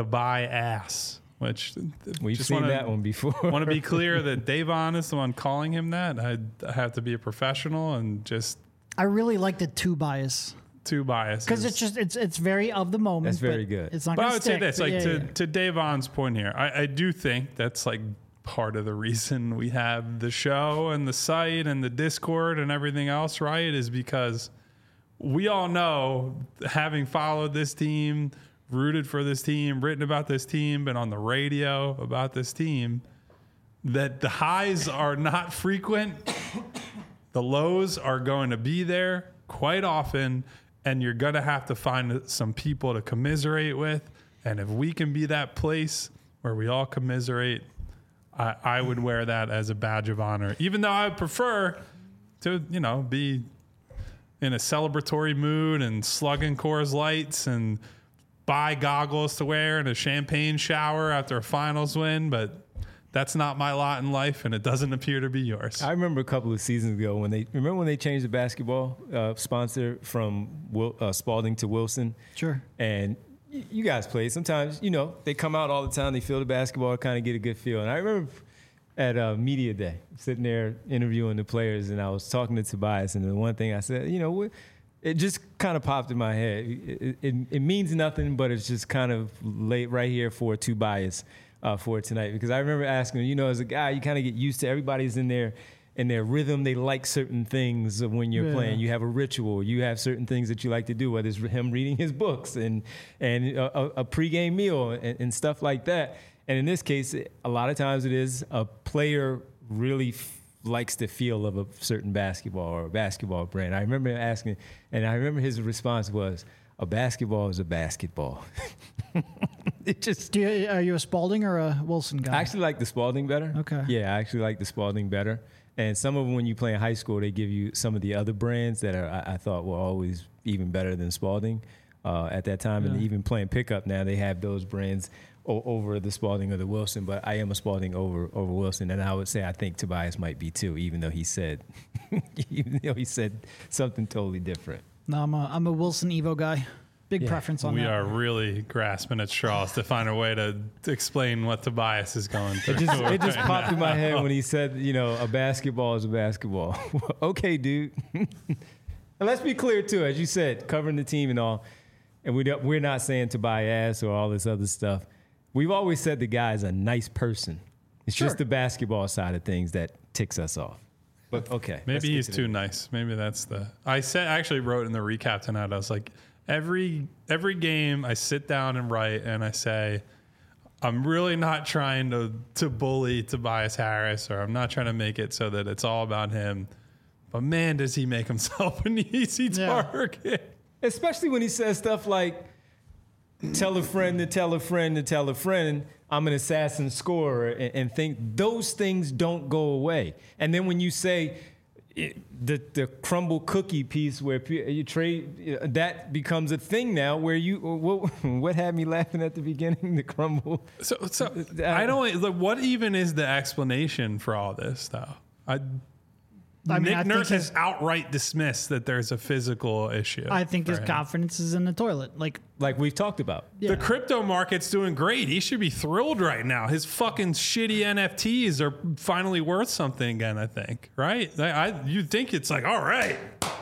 Tobias, which We've seen that one before. Want to be clear that Davon is the one calling him that. I have to be a professional and just I really like the Tobias Tobias because it's very of the moment. That's very but good. It's not. But I gonna would stick, say this, but like to Davon's point here, I do think that's like part of the reason we have the show and the site and the Discord and everything else, right? Is because we all know, having followed this team, rooted for this team, written about this team, been on the radio about this team, that the highs are not frequent. The lows are going to be there quite often, and you're going to have to find some people to commiserate with. And if we can be that place where we all commiserate, I would wear that as a badge of honor, even though I would prefer to, be in a celebratory mood and slugging Coors Lights and buy goggles to wear and a champagne shower after a finals win. But that's not my lot in life, and it doesn't appear to be yours. I remember a couple of seasons ago when they changed the basketball sponsor from Spalding to Wilson. Sure. And you guys play. Sometimes, they come out all the time. They feel the basketball, kind of get a good feel. And I remember at Media Day, sitting there interviewing the players, and I was talking to Tobias, and the one thing I said, it just kind of popped in my head. It means nothing, but it's just kind of late right here for Tobias for tonight. Because I remember asking him, as a guy, you kind of get used to everybody's in their rhythm. They like certain things when you're playing. You have a ritual. You have certain things that you like to do, whether it's him reading his books and a pregame meal and stuff like that. And in this case, a lot of times it is a player really likes the feel of a certain basketball or a basketball brand. I remember asking, and I remember his response was, a basketball is a basketball. It just. Are you a Spalding or a Wilson guy? I actually like the Spalding better. Okay. Yeah, I actually like the Spalding better. And some of them, when you play in high school, they give you some of the other brands that I thought were always even better than Spalding at that time. Yeah. And even playing pickup now, they have those brands over the Spalding or the Wilson. But I am a Spalding over Wilson, and I would say I think Tobias might be too, even though he said something totally different. No, I'm a Wilson Evo guy. Big preference on that. We are really grasping at straws to find a way to explain what Tobias is going through. It just popped in my head when he said, a basketball is a basketball. Okay, dude. And let's be clear, too, as you said, covering the team and all, and we're not saying Tobias or all this other stuff. We've always said the guy is a nice person. It's just the basketball side of things that ticks us off. But, okay. Maybe he's too nice. Maybe that's I actually wrote in the recap tonight, I was like, Every game I sit down and write and I say, I'm really not trying to bully Tobias Harris, or I'm not trying to make it so that it's all about him. But man, does he make himself an easy target. Especially when he says stuff like, tell a friend to tell a friend to tell a friend, I'm an assassin scorer, and think those things don't go away. And then when you say, the crumble cookie piece where you trade, that becomes a thing now where what had me laughing at the beginning, the crumble. So I don't, what even is the explanation for all this though? Nick Nurse has outright dismissed that there's a physical issue. I think his confidence is in the toilet. Like we've talked about. Yeah. The crypto market's doing great. He should be thrilled right now. His fucking shitty NFTs are finally worth something again, I think. Right? You'd think it's like, all right,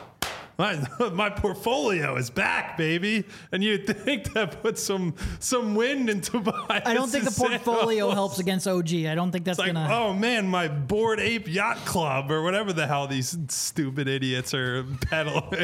my portfolio is back, baby. And you'd think that puts some wind into Tobias. I don't think the portfolio helps against OG. I don't think that's like, gonna. Oh man, my Bored Ape Yacht Club or whatever the hell these stupid idiots are peddling.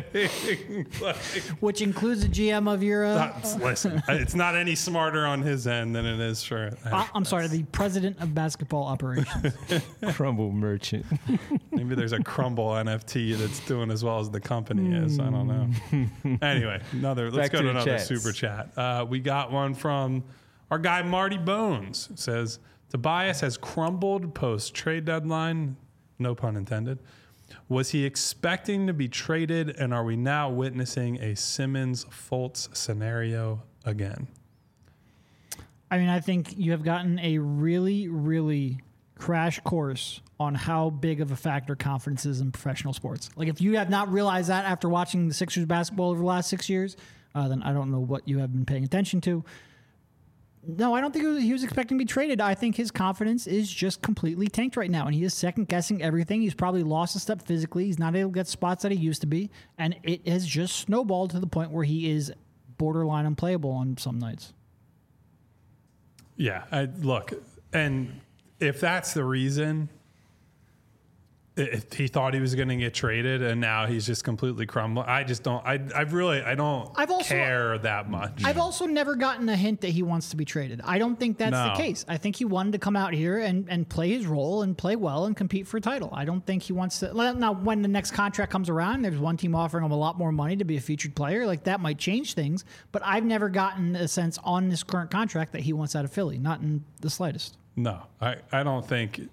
Which includes the GM of your. Listen, it's not any smarter on his end than it is for. I'm sorry, the president of basketball operations. Crumble merchant. Maybe there's a Crumble NFT that's doing as well as the company is. I don't know. Anyway, let's go to another super chat. We got one from our guy Marty Bones. It says, Tobias has crumbled post trade deadline. No pun intended. Was he expecting to be traded, and are we now witnessing a Simmons-Fultz scenario again? I mean, I think you have gotten a really, really crash course on how big of a factor confidence is in professional sports. Like, if you have not realized that after watching the Sixers basketball over the last 6 years, then I don't know what you have been paying attention to. No, I don't think he was expecting to be traded. I think his confidence is just completely tanked right now, and he is second-guessing everything. He's probably lost a step physically. He's not able to get spots that he used to be, and it has just snowballed to the point where he is borderline unplayable on some nights. Yeah, look, and if that's the reason, if he thought he was going to get traded and now he's just completely crumbling, I just don't. I don't care that much. I've also never gotten a hint that he wants to be traded. I don't think that's the case. I think he wanted to come out here and play his role and play well and compete for a title. I don't think he wants to. Now, when the next contract comes around, there's one team offering him a lot more money to be a featured player. Like, that might change things. But I've never gotten a sense on this current contract that he wants out of Philly. Not in the slightest. No, I don't think.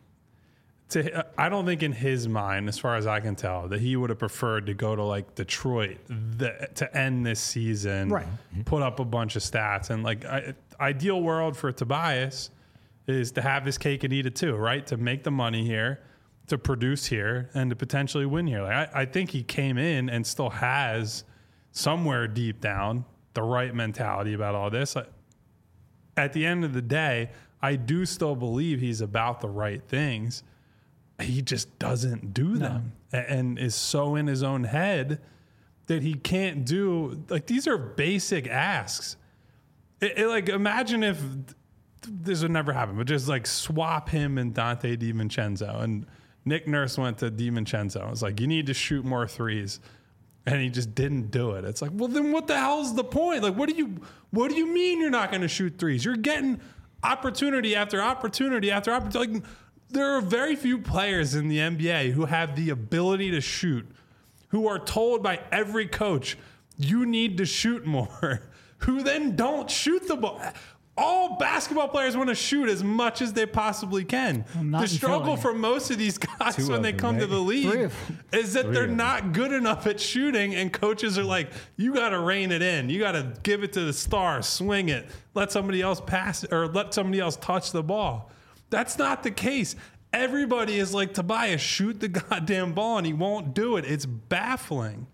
I don't think in his mind, as far as I can tell, that he would have preferred to go to like Detroit to end this season, right? Put up a bunch of stats, and like ideal world for Tobias is to have his cake and eat it too, right? To make the money here, to produce here, and to potentially win here. Like I think he came in and still has somewhere deep down the right mentality about all this. At the end of the day, I do still believe he's about the right things. He just doesn't do them and is so in his own head that he can't do, like, these are basic asks. Like, imagine if this would never happen, but just like swap him and Dante DiVincenzo, and Nick Nurse went to DiVincenzo. It's like, you need to shoot more threes. And he just didn't do it. It's like, well, then what the hell's the point? Like, what do you mean you're not going to shoot threes? You're getting opportunity after opportunity after opportunity. Like, there are very few players in the NBA who have the ability to shoot, who are told by every coach, you need to shoot more, who then don't shoot the ball. All basketball players want to shoot as much as they possibly can. The struggle for most of these guys when they come to the league is that they're not good enough at shooting, and coaches are like, you got to rein it in. You got to give it to the star, swing it, let somebody else pass or let somebody else touch the ball. That's not the case. Everybody is like, Tobias, shoot the goddamn ball, and he won't do it. It's baffling.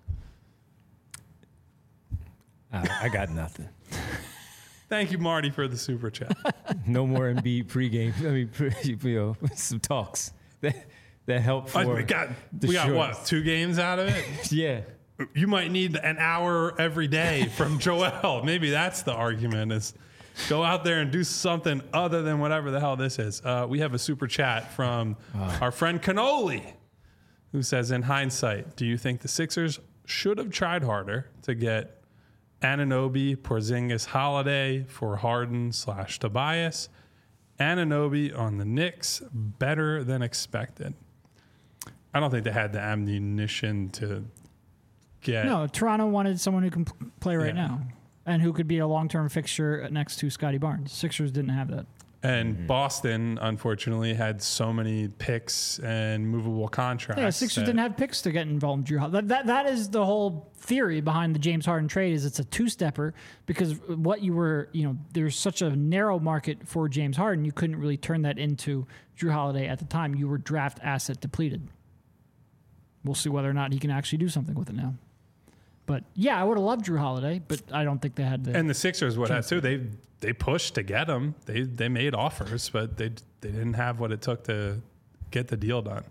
I got nothing. Thank you, Marty, for the super chat. No more Embiid pregame. I mean, some talks that help for we got what, 2 games out of it? Yeah. You might need an hour every day from Joel. Maybe that's the argument, is go out there and do something other than whatever the hell this is. We have a super chat from our friend Cannoli, who says, in hindsight, do you think the Sixers should have tried harder to get Anunoby, Porzingis, Holiday for Harden/Tobias? Anunoby on the Knicks, better than expected. I don't think they had the ammunition to get. No, Toronto wanted someone who can play right now and who could be a long-term fixture next to Scotty Barnes. Sixers didn't have that. And Boston, unfortunately, had so many picks and movable contracts. Yeah, Sixers didn't have picks to get involved in Drew Holiday. That is the whole theory behind the James Harden trade, is it's a two-stepper, because what you were, there's such a narrow market for James Harden, you couldn't really turn that into Drew Holiday at the time. You were draft asset depleted. We'll see whether or not he can actually do something with it now. But yeah, I would have loved Drew Holiday, but I don't think they had the. And the Sixers would have too. They pushed to get him. They made offers, but they didn't have what it took to get the deal done.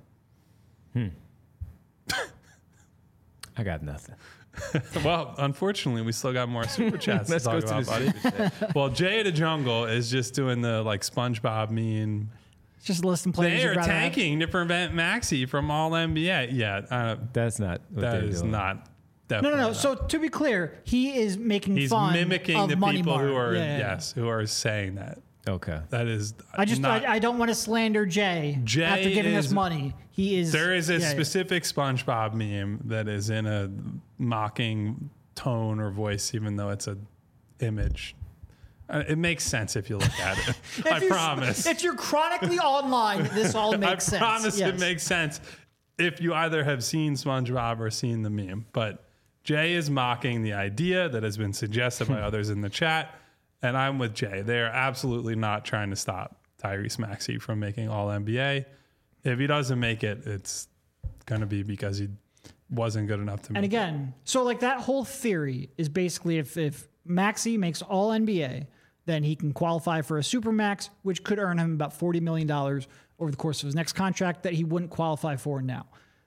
I got nothing. Well, unfortunately, we still got more super chats to talk about, buddy. Well, Jay the Jungle is just doing the like SpongeBob meme. It's just listing players. They are tanking to prevent Maxey from All NBA. Yeah, that's not. What that is doing. not. No. Not. So to be clear, he is making He's fun mimicking of the Money people Mark. who are who are saying that. Okay. That is. I don't want to slander Jay after giving us money. He is. There is a specific SpongeBob meme that is in a mocking tone or voice, even though it's an image. It makes sense if you look at it. I promise. If you're chronically online, this all makes sense. I promise yes. it makes sense if you either have seen SpongeBob or seen the meme. But Jay is mocking the idea that has been suggested by others in the chat, and I'm with Jay. They are absolutely not trying to stop Tyrese Maxey from making All-NBA. If he doesn't make it, it's going to be because he wasn't good enough to make And again, so like that whole theory is basically if Maxey makes All-NBA, then he can qualify for a Supermax, which could earn him about $40 million over the course of his next contract that he wouldn't qualify for now.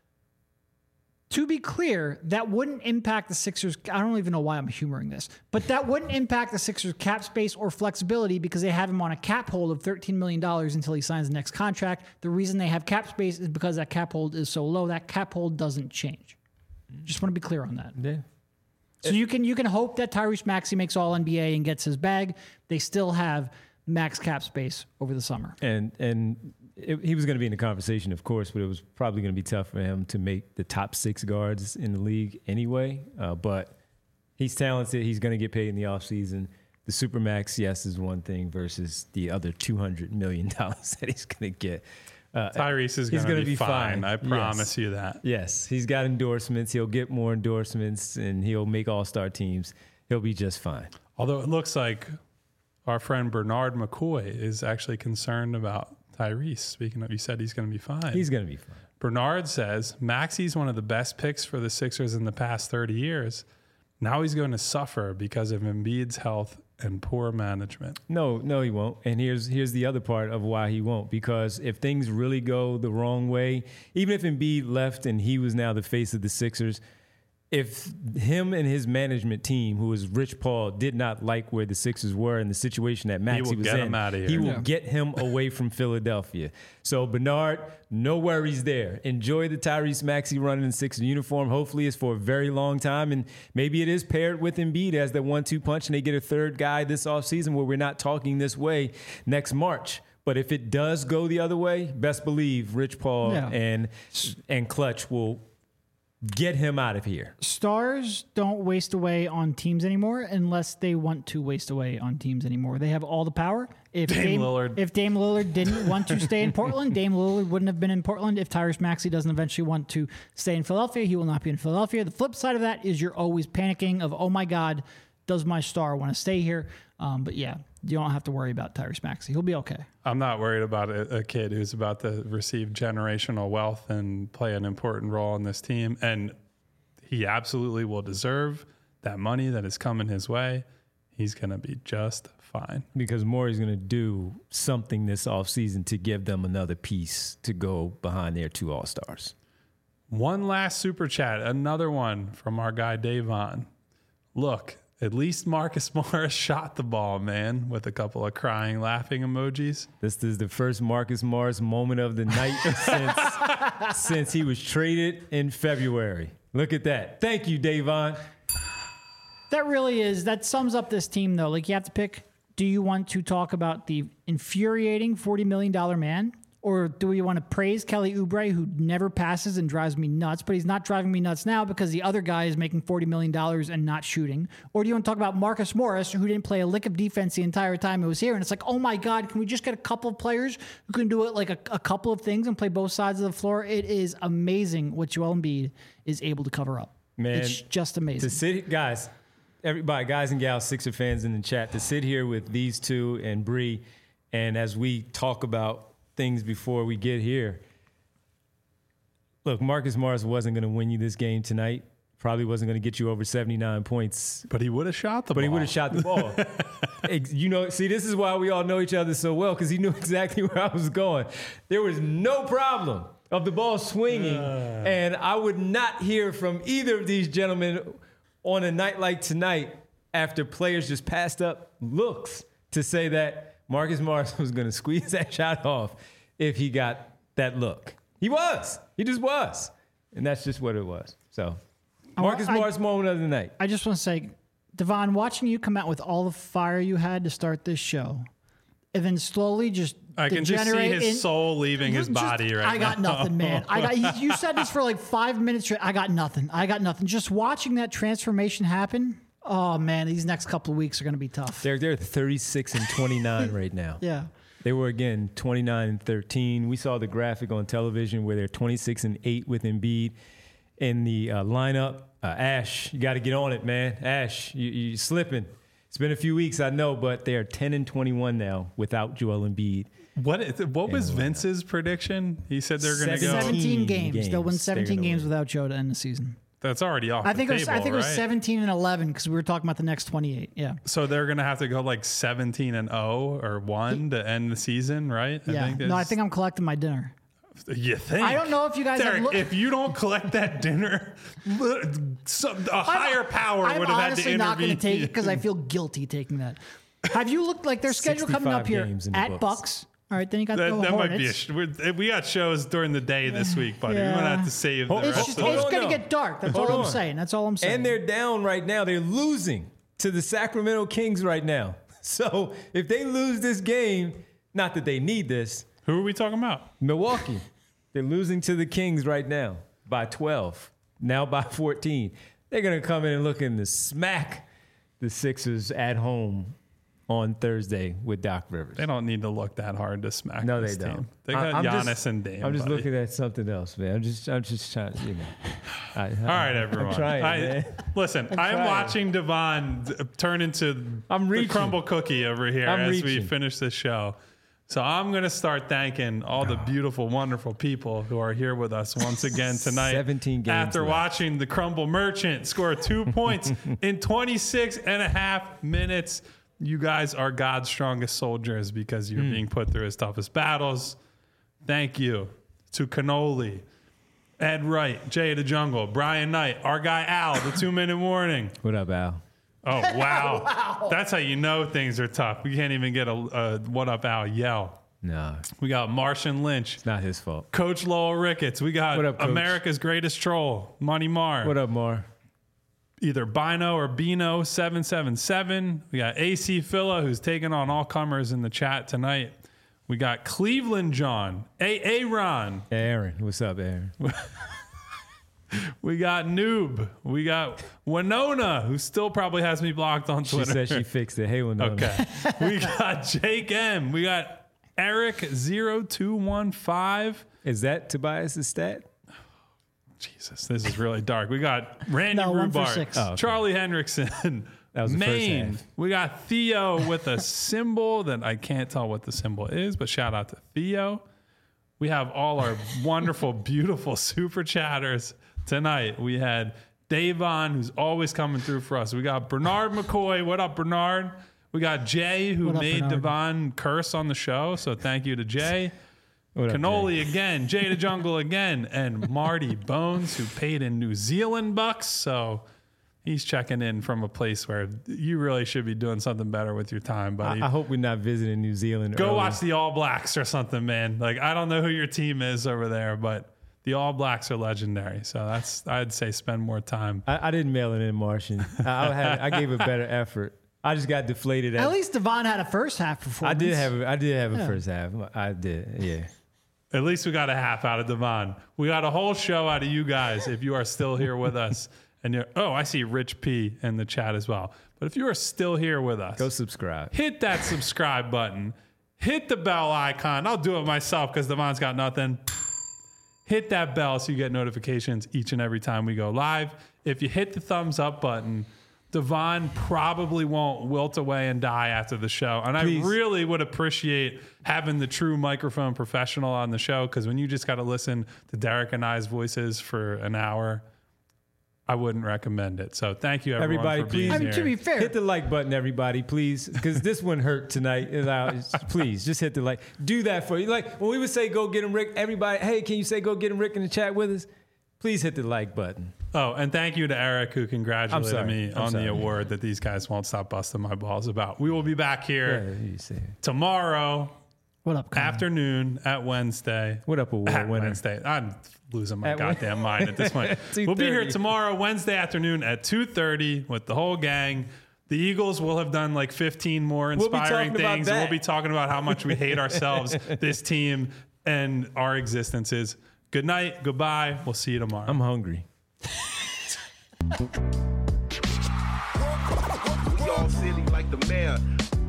To be clear, that wouldn't impact the Sixers. I don't even know why I'm humoring this, but that wouldn't impact the Sixers' cap space or flexibility because they have him on a cap hold of $13 million until he signs the next contract. The reason they have cap space is because that cap hold is so low. That cap hold doesn't change. Just want to be clear on that. Yeah. So you can hope that Tyrese Maxey makes All-NBA and gets his bag. They still have max cap space over the summer. He was going to be in the conversation, of course, but it was probably going to be tough for him to make the top 6 guards in the league anyway. But he's talented. He's going to get paid in the offseason. The Supermax, yes, is one thing versus the other $200 million that he's going to get. Tyrese is going to be fine. I promise you that. Yes, he's got endorsements. He'll get more endorsements, and he'll make all-star teams. He'll be just fine. Although it looks like our friend Bernard McCoy is actually concerned about Tyrese. Speaking of, you said he's going to be fine. He's going to be fine. Bernard says Maxey's one of the best picks for the Sixers in the past 30 years. Now he's going to suffer because of Embiid's health and poor management. No, he won't. And here's the other part of why he won't. Because if things really go the wrong way, even if Embiid left and he was now the face of the Sixers, if him and his management team, who is Rich Paul, did not like where the Sixers were and the situation that Maxey was in, he will get him away from Philadelphia. So Bernard, no worries there. Enjoy the Tyrese Maxey run in the Sixers uniform. Hopefully it's for a very long time, and maybe it is paired with Embiid as the 1-2 punch, and they get a third guy this offseason where we're not talking this way next March. But if it does go the other way, best believe Rich Paul and Clutch will get him out of here. Stars don't waste away on teams anymore unless they want to waste away on teams anymore. They have all the power. If Dame Lillard didn't want to stay in Portland, Dame Lillard wouldn't have been in Portland. If Tyrese Maxey doesn't eventually want to stay in Philadelphia, he will not be in Philadelphia. The flip side of that is you're always panicking of, oh my God, does my star want to stay here? But yeah, you don't have to worry about Tyrese Maxey. He'll be okay. I'm not worried about a kid who's about to receive generational wealth and play an important role in this team. And he absolutely will deserve that money that is coming his way. He's going to be just fine. Because Morey's going to do something this offseason to give them another piece to go behind their 2 All-Stars. One last super chat, another one from our guy Davon. Look, at least Marcus Morris shot the ball, man, with a couple of crying, laughing emojis. This is the first Marcus Morris moment of the night since he was traded in February. Look at that. Thank you, Davon. That sums up this team, though. Like, you have to pick, do you want to talk about the infuriating $40 million man? Or do we want to praise Kelly Oubre, who never passes and drives me nuts, but he's not driving me nuts now because the other guy is making $40 million and not shooting? Or do you want to talk about Marcus Morris, who didn't play a lick of defense the entire time he was here? And it's like, oh my God, can we just get a couple of players who can do it like a couple of things and play both sides of the floor? It is amazing what Joel Embiid is able to cover up. Man, it's just amazing. To sit, everybody, guys and gals, Sixer fans in the chat, to sit here with these two and Bree, and as we talk about things before we get here. Look, Marcus Morris wasn't going to win you this game tonight. Probably wasn't going to get you over 79 points. But he would have shot the ball. But he would have shot the ball. See, this is why we all know each other so well, because he knew exactly where I was going. There was no problem of the ball swinging, and I would not hear from either of these gentlemen on a night like tonight after players just passed up looks to say that Marcus Morris was going to squeeze that shot off if he got that look. He was. He just was. And that's just what it was. So, Marcus Morris moment of the night. I just want to say, Devon, watching you come out with all the fire you had to start this show, and then slowly just I can just see his soul leaving his body right now. I got nothing, man. You said this for like 5 minutes. I got nothing. Just watching that transformation happen. Oh man, these next couple of weeks are going to be tough. They're 36-29 right now. Yeah. They were, again, 29-13. We saw the graphic on television where they're 26-8 with Embiid in the lineup. Ash, you got to get on it, man. Ash, you slipping. It's been a few weeks, I know, but they are 10-21 now without Joel Embiid. What was Vince's prediction? He said they're going to go 17 games. They'll win games. 17 They're gonna games win. without Joe to end the season. That's already off I think the it was. table, I think it was right? 17 and 11 because we were talking about the next 28. Yeah. So they're going to have to go like 17-0 or 1 to end the season, right? Yeah. I think I'm collecting my dinner. You think? I don't know if you guys have Derek, if you don't collect that dinner, a higher power I'm would have had to honestly not going intervene. to take it because I feel guilty taking that. Have you looked like their schedule coming up 65 here games in the at books. Bucks? All right, then you got the That might Hornets. be we got shows during the day this week, buddy. We're gonna have to save the Hold- rest It's of hold it. on going to now. get dark. That's Hold all I'm on. saying. That's all I'm saying. And they're down right now. They're losing to the Sacramento Kings right now. So if they lose this game, not that they need this, Who are we talking about? Milwaukee, they're losing to the Kings right now by 12, now by 14. They're going to come in and looking to smack the Sixers at home on Thursday with Doc Rivers. They don't need to look that hard to smack. No, this they don't. team. They got I'm Giannis just- and Dame. I'm just buddy. looking at something else, man. I'm just trying, you know. All right, everyone. I'm trying, man. Listen, I'm trying. watching Devon turn into I'm the reaching. crumble cookie over here I'm as we reaching. finish this show. So I'm going to start thanking all the beautiful, wonderful people who are here with us once again tonight. 17 games After left. watching the Crumble Merchant score 2 points in 26 and a half minutes. You guys are God's strongest soldiers because you're being put through his toughest battles. Thank you to Cannoli, Ed Wright, Jay the Jungle, Brian Knight, our guy Al, the 2-minute warning. What up, Al? Oh, wow. That's how you know things are tough. We can't even get a what up, Al yell. No, We got Martian Lynch, it's not his fault. Coach Lowell Ricketts. We got What up, Coach? America's greatest troll, Money Marr. What up, Mar? Either Bino or Bino 777. We got AC Phila, who's taking on all comers in the chat tonight. We got Cleveland John, Ron. Aaron. What's up, Aaron? We got Noob. We got Winona, who still probably has me blocked on She Twitter. said she fixed it. Hey, Winona. Okay. We got Jake M. We got Eric0215. Is that Tobias' stat? Jesus, this is really dark. We got Randy No, 1 for Rhubarb, 6. Oh, okay. Charlie Hendrickson, That was the first Maine. half. We got Theo with a symbol that I can't tell what the symbol is, but shout out to Theo. We have all our wonderful, beautiful super chatters tonight. We had Davon, who's always coming through for us. We got Bernard McCoy. What up, Bernard? We got Jay, who What up, made Bernard? Devon curse on the show. So thank you to Jay. What up, Jay? Cannoli again, Jay the Jungle again, and Marty Bones, who paid in New Zealand bucks. So he's checking in from a place where you really should be doing something better with your time, buddy. I hope we're not visiting New Zealand. Go early. watch the All Blacks or something, man. Like, I don't know who your team is over there, but the All Blacks are legendary. So I'd say spend more time. I didn't mail it in, Martian. I gave a better effort. I just got deflated. At least Devon had a first half I performance. did have a first half. I did. Yeah. At least we got a half out of Devon. We got a whole show out of you guys if you are still here with us. And you're, I see Rich P in the chat as well. But if you are still here with us, Go subscribe. hit that subscribe button. Hit the bell icon. I'll do it myself because Devon's got nothing. Hit that bell so you get notifications each and every time we go live. If you hit the thumbs up button, Devon probably won't wilt away and die after the show. And Please. I really would appreciate having the true microphone professional on the show because when you just got to listen to Derek and I's voices for an hour, I wouldn't recommend it. So thank you, everyone, Everybody, for being please. I mean, here. to be fair, Hit the like button, everybody, please, because this one hurt tonight. Please, just hit the like. Do that for you. Like when we would say, "Go get him, Rick." Everybody, hey, can you say, "Go get him, Rick" in the chat with us? Please hit the like button. Oh, and thank you to Eric who congratulated sorry. me I'm on sorry. the award that these guys won't stop busting my balls about. We will be back here Yeah, you say it. tomorrow what up, Colin? afternoon at Wednesday. What up, award At winner? Wednesday. I'm losing my At goddamn mind at this point. We'll be here 2:30. tomorrow, Wednesday afternoon at 2:30 with the whole gang. The Eagles will have done like 15 more We'll be inspiring talking about things. And that. we'll be talking about how much we hate ourselves, this team, and our existences. Good night. Goodbye. We'll see you tomorrow. I'm hungry. We all silly like the mayor.